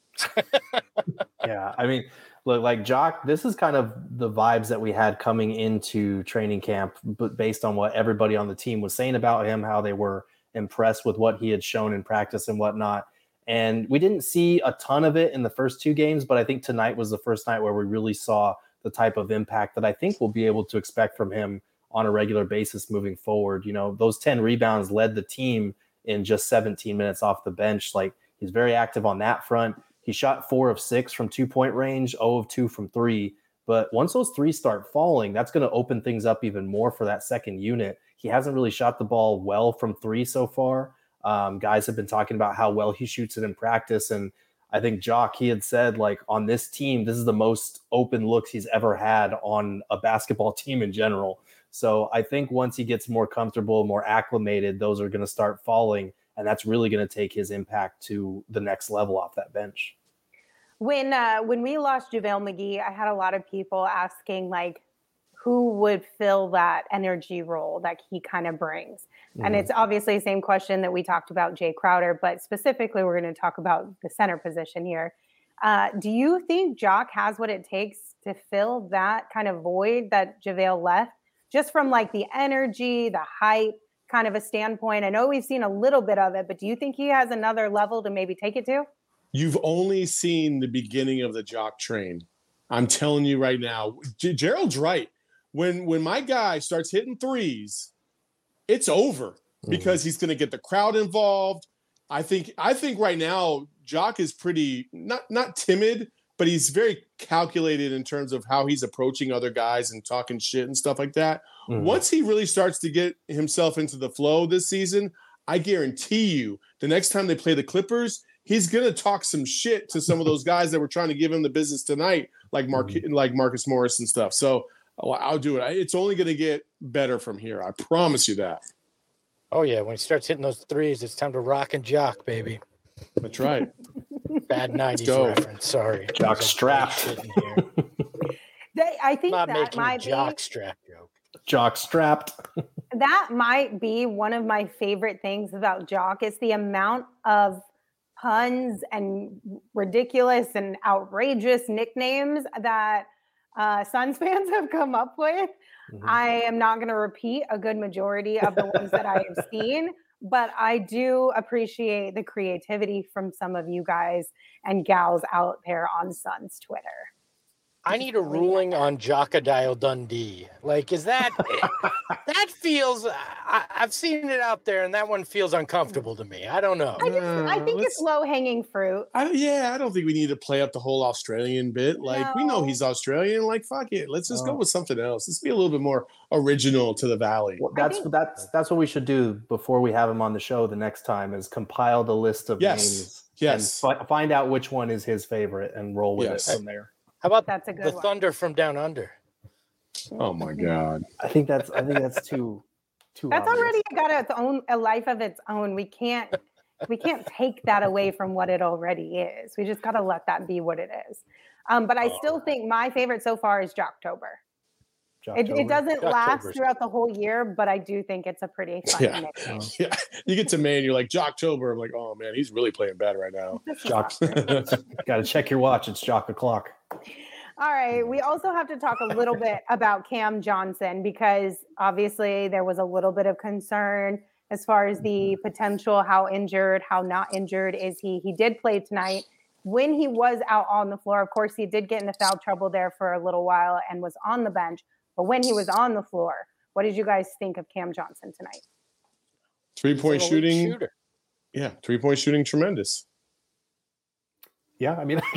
Yeah, I mean, look, like Jock, this is kind of the vibes that we had coming into training camp, but based on what everybody on the team was saying about him, how they were impressed with what he had shown in practice and whatnot. And we didn't see a ton of it in the first two games, but I think tonight was the first night where we really saw the type of impact that I think we'll be able to expect from him on a regular basis moving forward. You know, those ten rebounds led the team in just seventeen minutes off the bench. Like, he's very active on that front. He shot four of six from two-point range, zero of two from three. But once those threes start falling, that's going to open things up even more for that second unit. He hasn't really shot the ball well from three so far. Um, guys have been talking about how well he shoots it in practice. And I think Jock, he had said, like, on this team, this is the most open looks he's ever had on a basketball team in general. So I think once he gets more comfortable, more acclimated, those are going to start falling. And that's really going to take his impact to the next level off that bench. When uh, when we lost JaVale McGee, I had a lot of people asking, like, who would fill that energy role that he kind of brings? Mm-hmm. And it's obviously the same question that we talked about Jay Crowder, but specifically we're going to talk about the center position here. Uh, do you think Jock has what it takes to fill that kind of void that JaVale left? Just from like the energy, the hype kind of a standpoint. I know we've seen a little bit of it, but do you think he has another level to maybe take it to? You've only seen the beginning of the Jock train. I'm telling you right now, G- Gerald's right. When when my guy starts hitting threes, it's over because mm-hmm. he's going to get the crowd involved. I think I think right now Jock is pretty not not timid, but he's very calculated in terms of how he's approaching other guys and talking shit and stuff like that. Mm-hmm. Once he really starts to get himself into the flow this season, I guarantee you the next time they play the Clippers, he's going to talk some shit to some of those guys that were trying to give him the business tonight, like Mark, mm-hmm. like Marcus Morris and stuff. So oh, I'll do it. It's only going to get better from here. I promise you that. Oh, yeah. When he starts hitting those threes, it's time to rock and jock, baby. That's right. Bad nineties reference. Sorry. Jock strapped. They, I think I'm not that making might a jock be, strap joke. Jock strapped. That might be one of my favorite things about Jock is the amount of puns and ridiculous and outrageous nicknames that uh, Suns fans have come up with. Mm-hmm. I am not going to repeat a good majority of the ones that I have seen, but I do appreciate the creativity from some of you guys and gals out there on Suns Twitter. I need a ruling on Jockadile Dundee. Like, is that that feels? I, I've seen it out there, and that one feels uncomfortable to me. I don't know. I, just, I think uh, it's low hanging fruit. I, yeah, I don't think we need to play up the whole Australian bit. Like, no. we know he's Australian. Like, fuck it, let's just oh. go with something else. Let's be a little bit more original to the Valley. Well, that's think, that's that's what we should do before we have him on the show the next time. Is compile the list of yes. names. Yes. And fi- find out which one is his favorite and roll with yes. it from there. How about that's a good the one. Thunder from Down Under? Oh my God! I think that's I think that's too too. That's obvious. already got its own a life of its own. We can't we can't take that away from what it already is. We just got to let that be what it is. Um, but I oh. still think my favorite so far is Jocktober. It, it doesn't Jocktober's last throughout the whole year, but I do think it's a pretty fun yeah. nickname. Yeah, you get to May and you're like Jocktober. I'm like, oh man, he's really playing bad right now. Jock, got to check your watch. It's Jock o'clock. All right. We also have to talk a little bit about Cam Johnson because obviously there was a little bit of concern as far as the potential, how injured, how not injured is he. He did play tonight. when he was out on the floor, of course, he did get into foul trouble there for a little while and was on the bench. But when he was on the floor, what did you guys think of Cam Johnson tonight? Three-point shooting. Yeah, three-point shooting, tremendous. Yeah, I mean,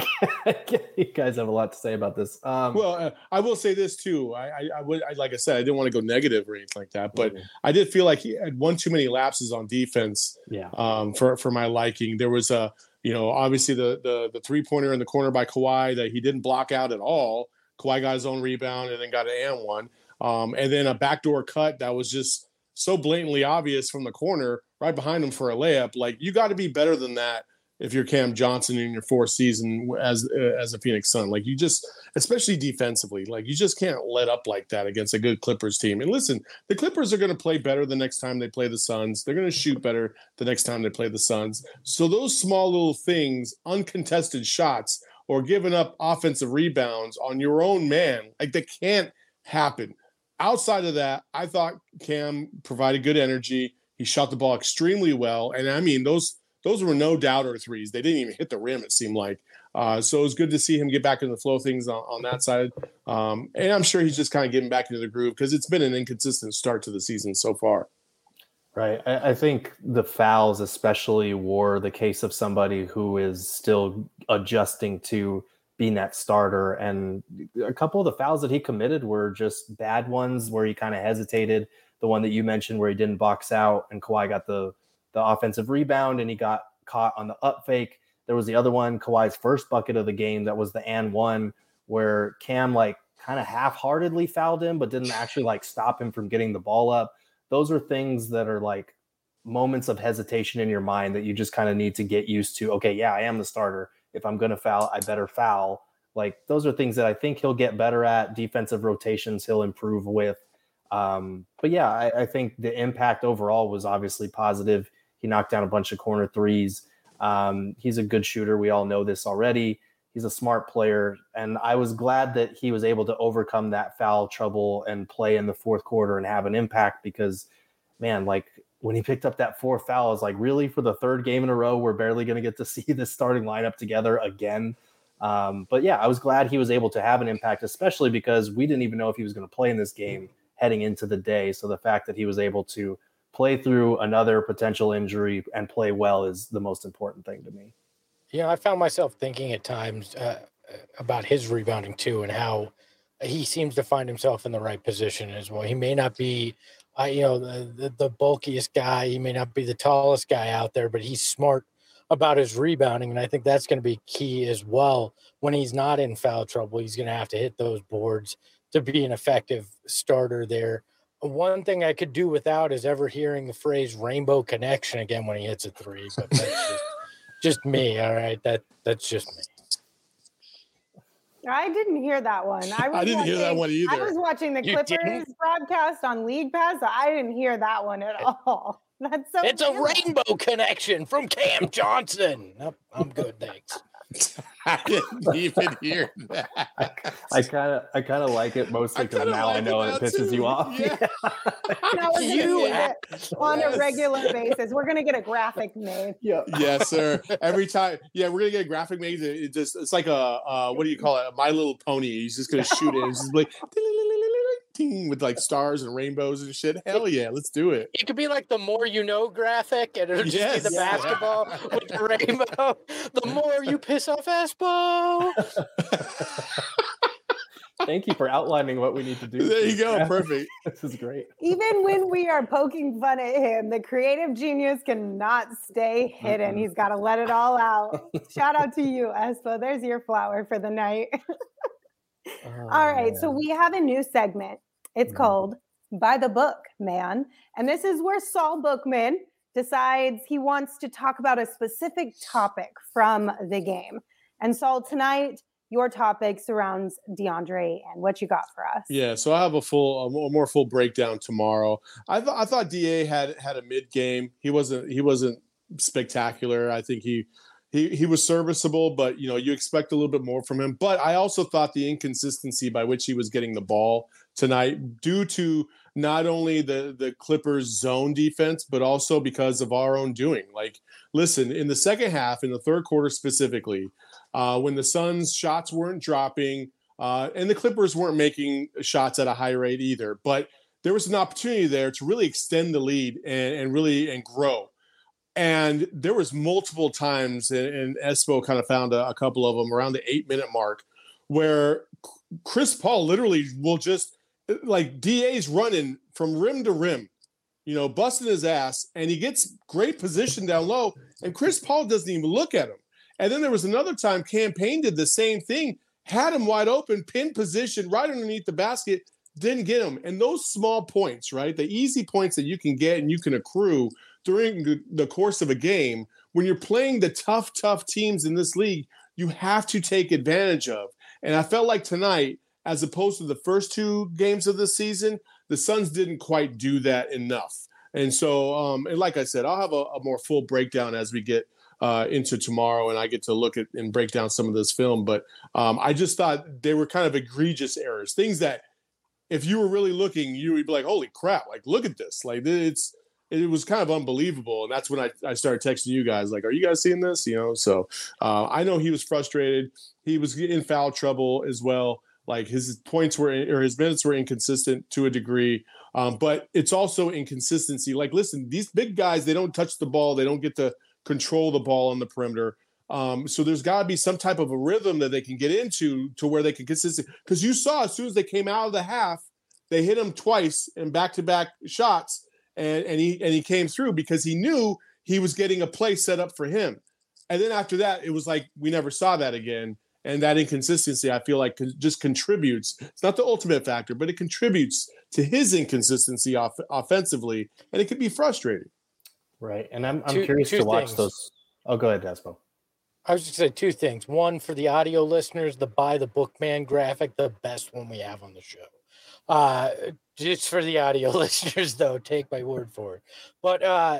you guys have a lot to say about this. Um, well, uh, I will say this too. I, I, I would, I, like I said, I didn't want to go negative or anything like that, but mm-hmm. I did feel like he had one too many lapses on defense. Yeah. Um, for for my liking, there was a, you know, obviously the the the three pointer in the corner by Kawhi that he didn't block out at all. Kawhi got his own rebound and then got an and one, um, and then a backdoor cut that was just so blatantly obvious from the corner right behind him for a layup. Like, you got to be better than that if you're Cam Johnson in your fourth season as uh, as a Phoenix Sun. Like, you just, especially defensively, like, you just can't let up like that against a good Clippers team. And listen, the Clippers are going to play better the next time they play the Suns. They're going to shoot better the next time they play the Suns. So those small little things, uncontested shots or giving up offensive rebounds on your own man, like, that can't happen. Outside of that, I thought Cam provided good energy. He shot the ball extremely well. And I mean, those those were no doubter threes. They didn't even hit the rim, it seemed like. Uh, so it was good to see him get back into the flow of things on, on that side. Um, and I'm sure he's just kind of getting back into the groove because it's been an inconsistent start to the season so far. Right. I, I think the fouls especially were the case of somebody who is still adjusting to being that starter. And a couple of the fouls that he committed were just bad ones where he kind of hesitated. The one that you mentioned where he didn't box out and Kawhi got the, the offensive rebound and he got caught on the up fake. There was the other one, Kawhi's first bucket of the game. That was the and one where Cam like kind of half-heartedly fouled him, but didn't actually like stop him from getting the ball up. Those are things that are like moments of hesitation in your mind that you just kind of need to get used to. Okay, yeah, I am the starter. If I'm going to foul, I better foul. Like, those are things that I think he'll get better at. Defensive rotations he'll improve with. Um, but yeah, I, I think the impact overall was obviously positive. He knocked down a bunch of corner threes. Um, he's a good shooter. We all know this already. He's a smart player. And I was glad that he was able to overcome that foul trouble and play in the fourth quarter and have an impact because, man, like, when he picked up that fourth foul, I was like, really, for the third game in a row, we're barely going to get to see this starting lineup together again. Um, but yeah, I was glad he was able to have an impact, especially because we didn't even know if he was going to play in this game heading into the day. So the fact that he was able to play through another potential injury and play well is the most important thing to me. Yeah, I found myself thinking at times uh, about his rebounding too, and how he seems to find himself in the right position as well. He may not be, uh, you know, the, the the bulkiest guy. He may not be the tallest guy out there, but he's smart about his rebounding, and I think that's going to be key as well. When he's not in foul trouble, he's going to have to hit those boards to be an effective starter there. One thing I could do without is ever hearing the phrase "rainbow connection" again when he hits a three, but that's just, just me. All right, that that's just me. I didn't hear that one. I, was I didn't watching, hear that one either. I was watching the You Clippers didn't? broadcast on League Pass, so I didn't hear that one at all. That's so It's a weird. rainbow connection from Cam Johnson. Nope, I'm good, thanks. I didn't even hear that. I kind of, I kind of like it mostly because now like I know it it now, pisses too. you off. Yeah. No, we're gonna You use it on Yes. a regular basis. We're gonna get a graphic made. Yeah. Yes, sir. Every time, yeah, we're gonna get a graphic made. It it just, it's like a, uh, what do you call it? A My Little Pony. He's just gonna shoot it. It's just like ting, with like stars and rainbows and shit. Hell yeah, let's do it. It could be like the more you know graphic, and it'll just Yes. be the Yeah. basketball with the rainbow. The more you piss off Espo. Thank you for outlining what we need to do. There you go. Perfect. This is great. Even when we are poking fun at him, the creative genius cannot stay hidden. Mm-mm. He's got to let it all out. Shout out to you, Espo. There's your flower for the night. Oh, All right, so we have a new segment. It's Mhm. called By the Book, Man. And this is where Saul Bookman decides he wants to talk about a specific topic from the game. And Saul, tonight, your topic surrounds DeAndre and what you got for us. Yeah, so I have a full, a more- more full breakdown tomorrow. I thought I thought D A had had a mid game. He wasn't he wasn't spectacular. I think he he he was serviceable, but you know you expect a little bit more from him. But I also thought the inconsistency by which he was getting the ball tonight, due to not only the the Clippers zone defense, but also because of our own doing. Like, listen, in the second half, in the third quarter specifically, uh, when the Suns' shots weren't dropping, uh, and the Clippers weren't making shots at a high rate either. But there was an opportunity there to really extend the lead and, and really and grow. And there was multiple times, and, and Espo kind of found a, a couple of them around the eight-minute mark, where Chris Paul literally will just, like, D A's running from rim to rim, you know, busting his ass, and he gets great position down low, and Chris Paul doesn't even look at him. And then there was another time Cam Payne did the same thing, had him wide open, pin position right underneath the basket, didn't get him. And those small points, right, the easy points that you can get and you can accrue during the course of a game, when you're playing the tough, tough teams in this league, you have to take advantage of. And I felt like tonight, as opposed to the first two games of the season, the Suns didn't quite do that enough. And so, um, and like I said, I'll have a, a more full breakdown as we get uh, into tomorrow, and I get to look at and break down some of this film. But um, I just thought they were kind of egregious errors, things that if you were really looking, you would be like, holy crap, like, look at this. Like, it's, it was kind of unbelievable. And that's when I, I started texting you guys, like, are you guys seeing this? You know, so uh, I know he was frustrated. He was in foul trouble as well. Like, his points were, or his minutes were inconsistent to a degree. Um, but it's also inconsistency. Like, listen, these big guys, they don't touch the ball. They don't get to control the ball on the perimeter. Um, so there's got to be some type of a rhythm that they can get into to where they can consistent. Because you saw as soon as they came out of the half, they hit him twice in back-to-back shots. And, and he and he came through because he knew he was getting a play set up for him. And then after that, it was like we never saw that again. And that inconsistency, I feel like, just contributes. It's not the ultimate factor, but it contributes to his inconsistency off, offensively, and it can be frustrating. Right. And I'm I'm two, curious two to watch things. those. Oh, go ahead, Despo. I was just going to say two things. One, for the audio listeners, the By the Bookman graphic, the best one we have on the show. Uh, just for the audio listeners, though, take my word for it. But uh,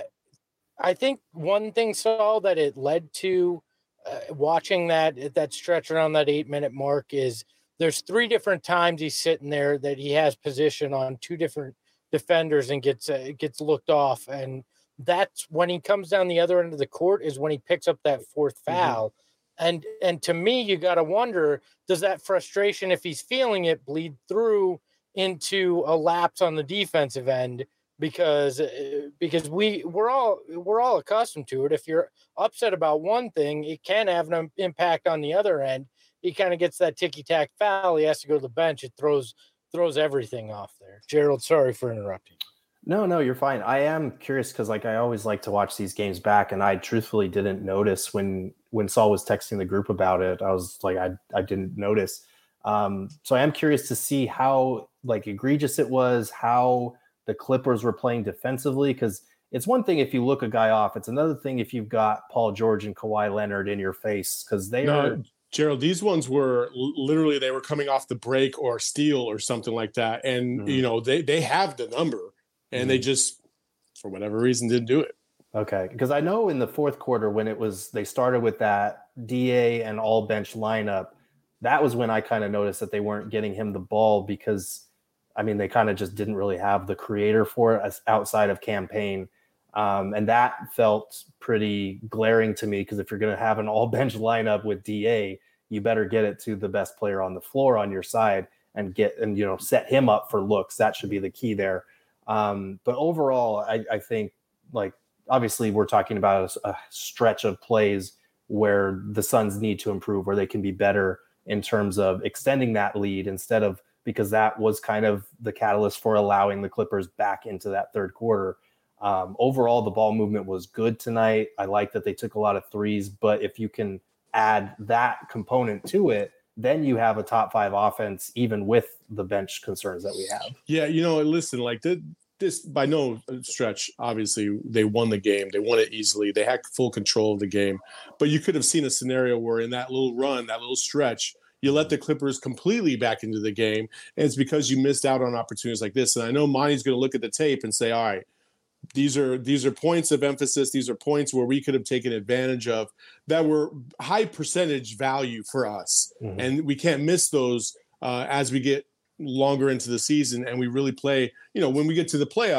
I think one thing, Saul, that it led to uh, watching that that stretch around that eight-minute mark is there's three different times he's sitting there that he has position on two different defenders and gets uh, gets looked off. And that's when he comes down the other end of the court is when he picks up that fourth foul. Mm-hmm. And and to me, you got to wonder, does that frustration, if he's feeling it, bleed through into a lapse on the defensive end? Because because we we're all we're all accustomed to it. If you're upset about one thing, it can have an impact on the other end. He kind of gets that ticky-tack foul. He has to go to the bench. It throws throws everything off there. Gerald, sorry for interrupting. No, no, you're fine. I am curious because, like, I always like to watch these games back, and I truthfully didn't notice when when Saul was texting the group about it. I was like, I I didn't notice. Um, so I am curious to see how like egregious it was, how the Clippers were playing defensively, because it's one thing if you look a guy off. It's another thing if you've got Paul George and Kawhi Leonard in your face, because they no, are. Gerald, these ones were literally, they were coming off the break or steal or something like that. And, mm-hmm. you know, they, they have the number and mm-hmm. they just, for whatever reason, didn't do it. Okay. Because I know in the fourth quarter when it was, they started with that D A and all bench lineup, that was when I kind of noticed that they weren't getting him the ball because, I mean, they kind of just didn't really have the creator for it as outside of Cam Payne. Um, and that felt pretty glaring to me because if you're going to have an all bench lineup with D A, you better get it to the best player on the floor on your side and get, and, you know, set him up for looks. That should be the key there. Um, but overall, I, I think, like, obviously we're talking about a, a stretch of plays where the Suns need to improve, where they can be better in terms of extending that lead instead of, because that was kind of the catalyst for allowing the Clippers back into that third quarter. Um, overall, the ball movement was good tonight. I like that they took a lot of threes, but if you can add that component to it, then you have a top five offense, even with the bench concerns that we have. Yeah, you know, listen, like th- this, by no stretch, obviously, they won the game. They won it easily. They had full control of the game. But you could have seen a scenario where in that little run, that little stretch, you let the Clippers completely back into the game, and it's because you missed out on opportunities like this. And I know Monty's going to look at the tape and say, all right, these are these are points of emphasis. These are points where we could have taken advantage of that were high percentage value for us. Mm-hmm. And we can't miss those uh, as we get longer into the season and we really play, you know, when we get to the playoffs,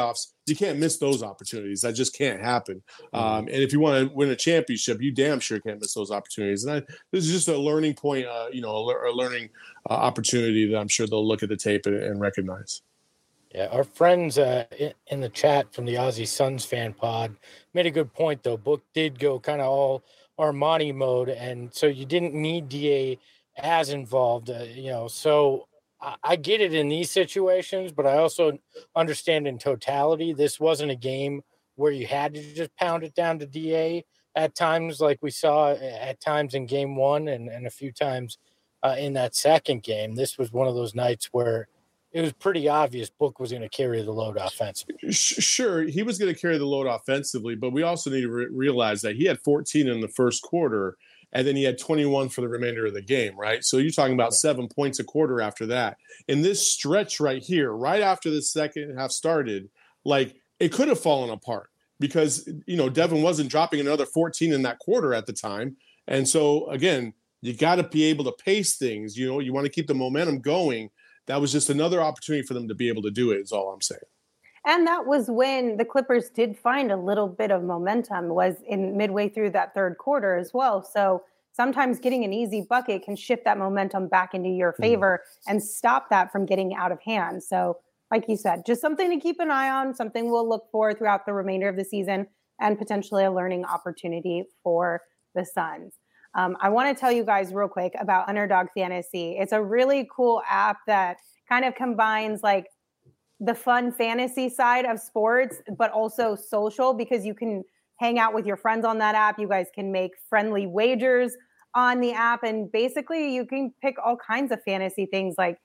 you can't miss those opportunities. That just can't happen. Um, and if you want to win a championship, you damn sure can't miss those opportunities. And I, this is just a learning point, uh, you know, a, a learning uh, opportunity that I'm sure they'll look at the tape and, and recognize. Yeah, our friends uh, in the chat from the Aussie Suns fan pod made a good point, though. Book did go kind of all Armani mode, and so you didn't need D A as involved, uh, you know. So I, I get it in these situations, but I also understand in totality, this wasn't a game where you had to just pound it down to D A at times, like we saw at times in game one and, and a few times uh, in that second game. This was one of those nights where it was pretty obvious Book was going to carry the load offensively. Sure, he was going to carry the load offensively, but we also need to re- realize that he had fourteen in the first quarter, and then he had twenty-one for the remainder of the game, right? So you're talking about yeah. seven points a quarter after that. In this stretch right here, right after the second half started, like it could have fallen apart because, you know, Devin wasn't dropping another fourteen in that quarter at the time. And so, again, you got to be able to pace things. You know, you want to keep the momentum going. That was just another opportunity for them to be able to do it is all I'm saying. And that was when the Clippers did find a little bit of momentum, was in midway through that third quarter as well. So sometimes getting an easy bucket can shift that momentum back into your favor mm-hmm. and stop that from getting out of hand. So like you said, just something to keep an eye on, something we'll look for throughout the remainder of the season, and potentially a learning opportunity for the Suns. Um, I want to tell you guys real quick about Underdog Fantasy. It's a really cool app that kind of combines like the fun fantasy side of sports, but also social, because you can hang out with your friends on that app. You guys can make friendly wagers on the app, and basically you can pick all kinds of fantasy things like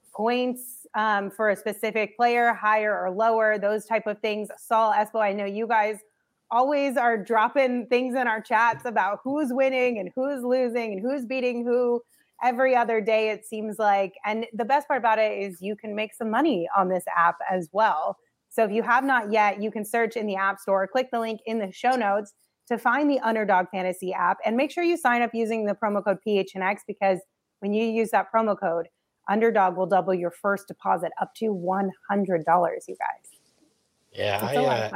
points um, for a specific player, higher or lower, those type of things. Saul, Espo, I know you guys always are dropping things in our chats about who's winning and who's losing and who's beating who every other day, it seems like. And the best part about it is you can make some money on this app as well. So if you have not yet, you can search in the App Store, click the link in the show notes to find the Underdog Fantasy app, and make sure you sign up using the promo code P H N X, because when you use that promo code, Underdog will double your first deposit up to one hundred dollars, you guys. Yeah, it's I, a lot uh, of fun.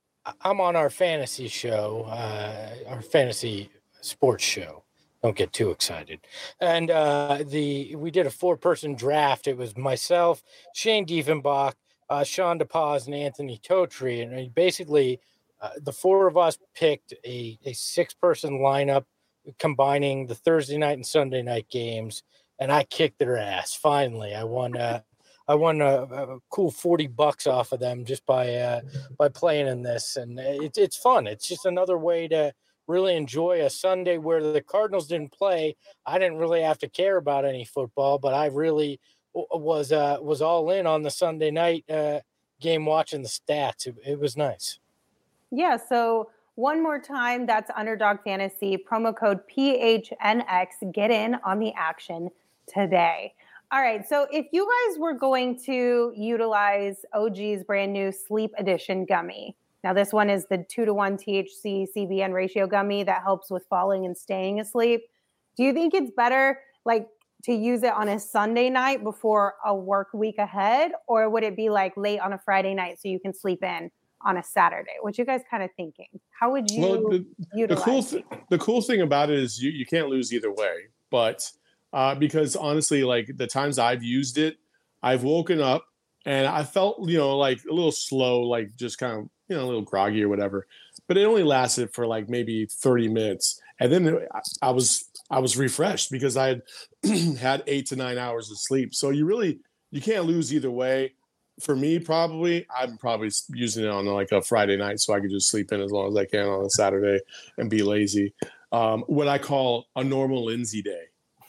I'm on our fantasy show, uh, our fantasy sports show. Don't get too excited. And uh, the we did a four-person draft. It was myself, Shane Diefenbach, uh, Sean DePaz, and Anthony Totri. And basically, uh, the four of us picked a, a six-person lineup combining the Thursday night and Sunday night games. And I kicked their ass. Finally, I won. Uh, I won a, a cool forty bucks off of them just by uh, by playing in this, and it's it's fun. It's just another way to really enjoy a Sunday where the Cardinals didn't play. I didn't really have to care about any football, but I really was uh, was all in on the Sunday night uh, game, watching the stats. It, it was nice. Yeah. So one more time, that's Underdog Fantasy, promo code P H N X. Get in on the action today. All right. So if you guys were going to utilize O G's brand new Sleep Edition gummy, now this one is the two to one T H C C B N ratio gummy that helps with falling and staying asleep. Do you think it's better like to use it on a Sunday night before a work week ahead, or would it be like late on a Friday night so you can sleep in on a Saturday? What you guys kind of thinking? How would you well, the, utilize the cool th- the cool thing about it is you, you can't lose either way, but Uh, because honestly, like the times I've used it, I've woken up and I felt, you know, like a little slow, like just kind of, you know, a little groggy or whatever. But it only lasted for like maybe thirty minutes. And then I was, I was refreshed because I had had eight to nine hours of sleep. So you really, you can't lose either way. For me, probably, I'm probably using it on like a Friday night so I could just sleep in as long as I can on a Saturday and be lazy. Um, what I call a normal Lindsay day.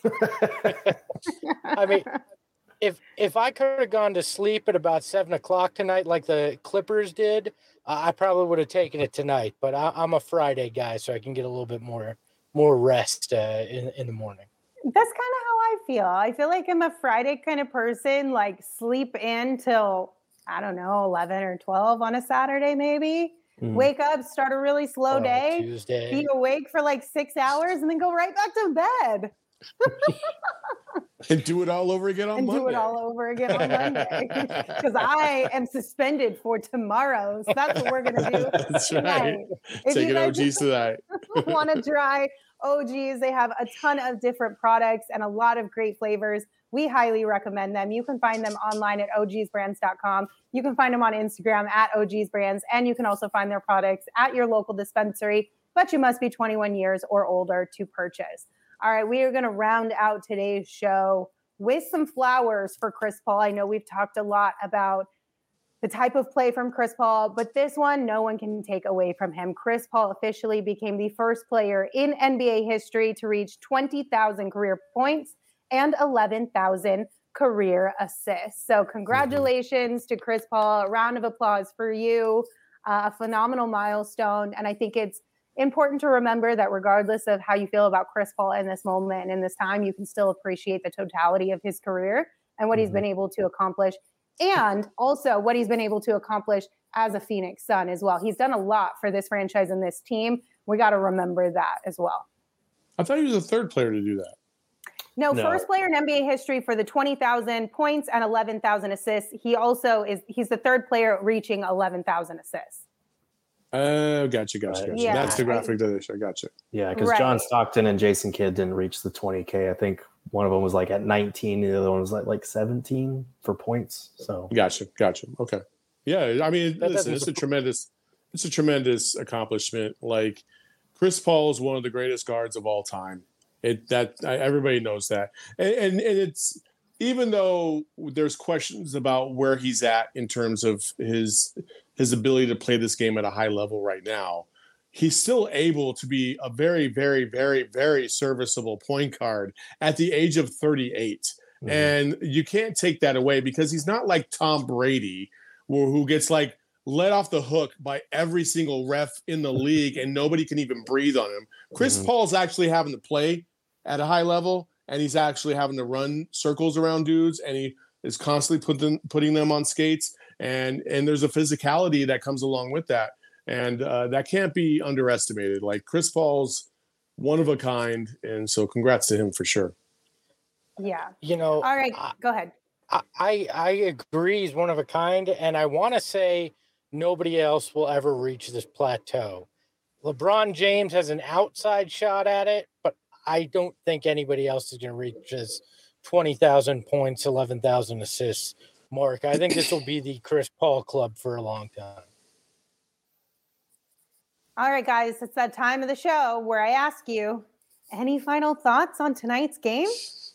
I mean, if if I could have gone to sleep at about seven o'clock tonight, like the Clippers did, uh, I probably would have taken it tonight. But I, I'm a Friday guy, so I can get a little bit more more rest uh, in in the morning. That's kind of how I feel. I feel like I'm a Friday kind of person. Like sleep in till I don't know eleven or twelve on a Saturday, maybe. Mm. Wake up, start a really slow oh, day, Tuesday. Be awake for like six hours, and then go right back to bed. And do it all over again on and Monday. do it all over again on Monday. Because I am suspended for tomorrow. So that's what we're going to do. That's tonight. right. If Taking you guys O Gs tonight. want to try O Gs, they have a ton of different products and a lot of great flavors. We highly recommend them. You can find them online at O Gs brands dot com. You can find them on Instagram at O Gs Brands. And you can also find their products at your local dispensary. But you must be twenty-one years or older to purchase. All right, we are going to round out today's show with some flowers for Chris Paul. I know we've talked a lot about the type of play from Chris Paul, but this one, no one can take away from him. Chris Paul officially became the first player in N B A history to reach twenty thousand career points and eleven thousand career assists. So congratulations mm-hmm. to Chris Paul. A round of applause for you. Uh, a phenomenal milestone. And I think it's important to remember that regardless of how you feel about Chris Paul in this moment and in this time, you can still appreciate the totality of his career and what mm-hmm. he's been able to accomplish, and also what he's been able to accomplish as a Phoenix Sun as well. He's done a lot for this franchise and this team. We got to remember that as well. I thought he was the third player to do that. No, No. first player in N B A history for the twenty thousand points and eleven thousand assists. He also is, he's the third player reaching eleven thousand assists. Oh, gotcha, gotcha, gotcha. Yeah. That's the graphic that I show. Gotcha. Yeah, because Right. John Stockton and Jason Kidd didn't reach the twenty K. I think one of them was like at nineteen, the other one was like like seventeen for points. So Gotcha, gotcha. Okay. Yeah, I mean, That listen, doesn't it's a surpri- tremendous, it's a tremendous accomplishment. Like Chris Paul is one of the greatest guards of all time. It that I, everybody knows that, and, and and it's even though there's questions about where he's at in terms of his his ability to play this game at a high level right now, he's still able to be a very, very, very, very serviceable point guard at the age of thirty-eight. Mm-hmm. And you can't take that away because he's not like Tom Brady, who, who gets like let off the hook by every single ref in the league and nobody can even breathe on him. Chris mm-hmm. Paul's actually having to play at a high level, and he's actually having to run circles around dudes, and he is constantly put them, putting them on skates. And and there's a physicality that comes along with that. And uh, that can't be underestimated. Like Chris Paul's one of a kind. And so congrats to him for sure. Yeah. You know, all right, I, go ahead. I, I agree he's one of a kind. And I want to say nobody else will ever reach this plateau. LeBron James has an outside shot at it, but I don't think anybody else is going to reach his twenty thousand points, eleven thousand assists mark. I think this will be the Chris Paul club for a long time. All right, guys, it's that time of the show where I ask you, any final thoughts on tonight's game?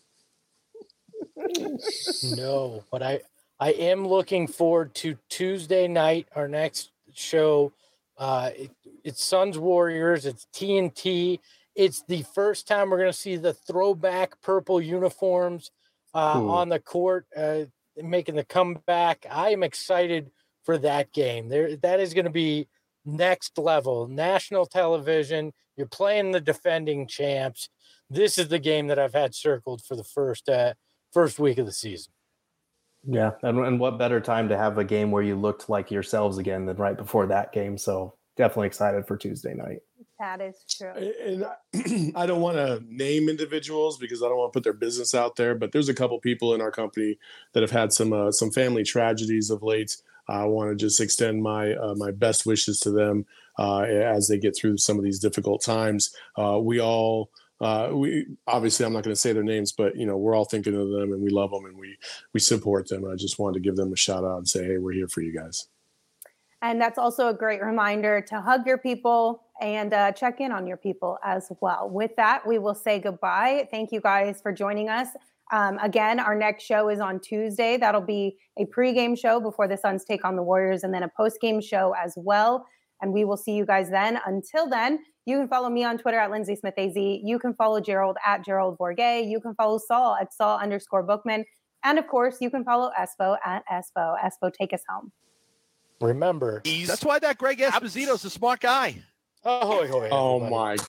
No, but I, I am looking forward to Tuesday night, our next show. Uh, it, it's Suns Warriors. It's T N T. It's the first time we're going to see the throwback purple uniforms uh, on the court, uh, making the comeback. I am excited for that game. There, that is going to be next level, national television. You're playing the defending champs. This is the game that I've had circled for the first uh, first week of the season. Yeah, and, and what better time to have a game where you looked like yourselves again than right before that game. So definitely excited for Tuesday night. That is true. And I don't want to name individuals because I don't want to put their business out there, but there's a couple people in our company that have had some uh, some family tragedies of late. I want to just extend my uh, my best wishes to them uh, as they get through some of these difficult times. Uh, we all, uh, we obviously I'm not going to say their names, but you know we're all thinking of them and we love them and we we support them. I just wanted to give them a shout out and say, hey, we're here for you guys. And that's also a great reminder to hug your people and uh, check in on your people as well. With that, we will say goodbye. Thank you guys for joining us. Um, again, our next show is on Tuesday. That'll be a pregame show before the Suns take on the Warriors, and then a postgame show as well. And we will see you guys then. Until then, you can follow me on Twitter at Lindsay Smith A Z. You can follow Gerald at Gerald Bourget. You can follow Saul at Saul underscore Bookman. And of course, you can follow Espo at Espo. Espo, take us home. Remember, that's why that Greg Esposito's a smart guy. Oh, oh, oh my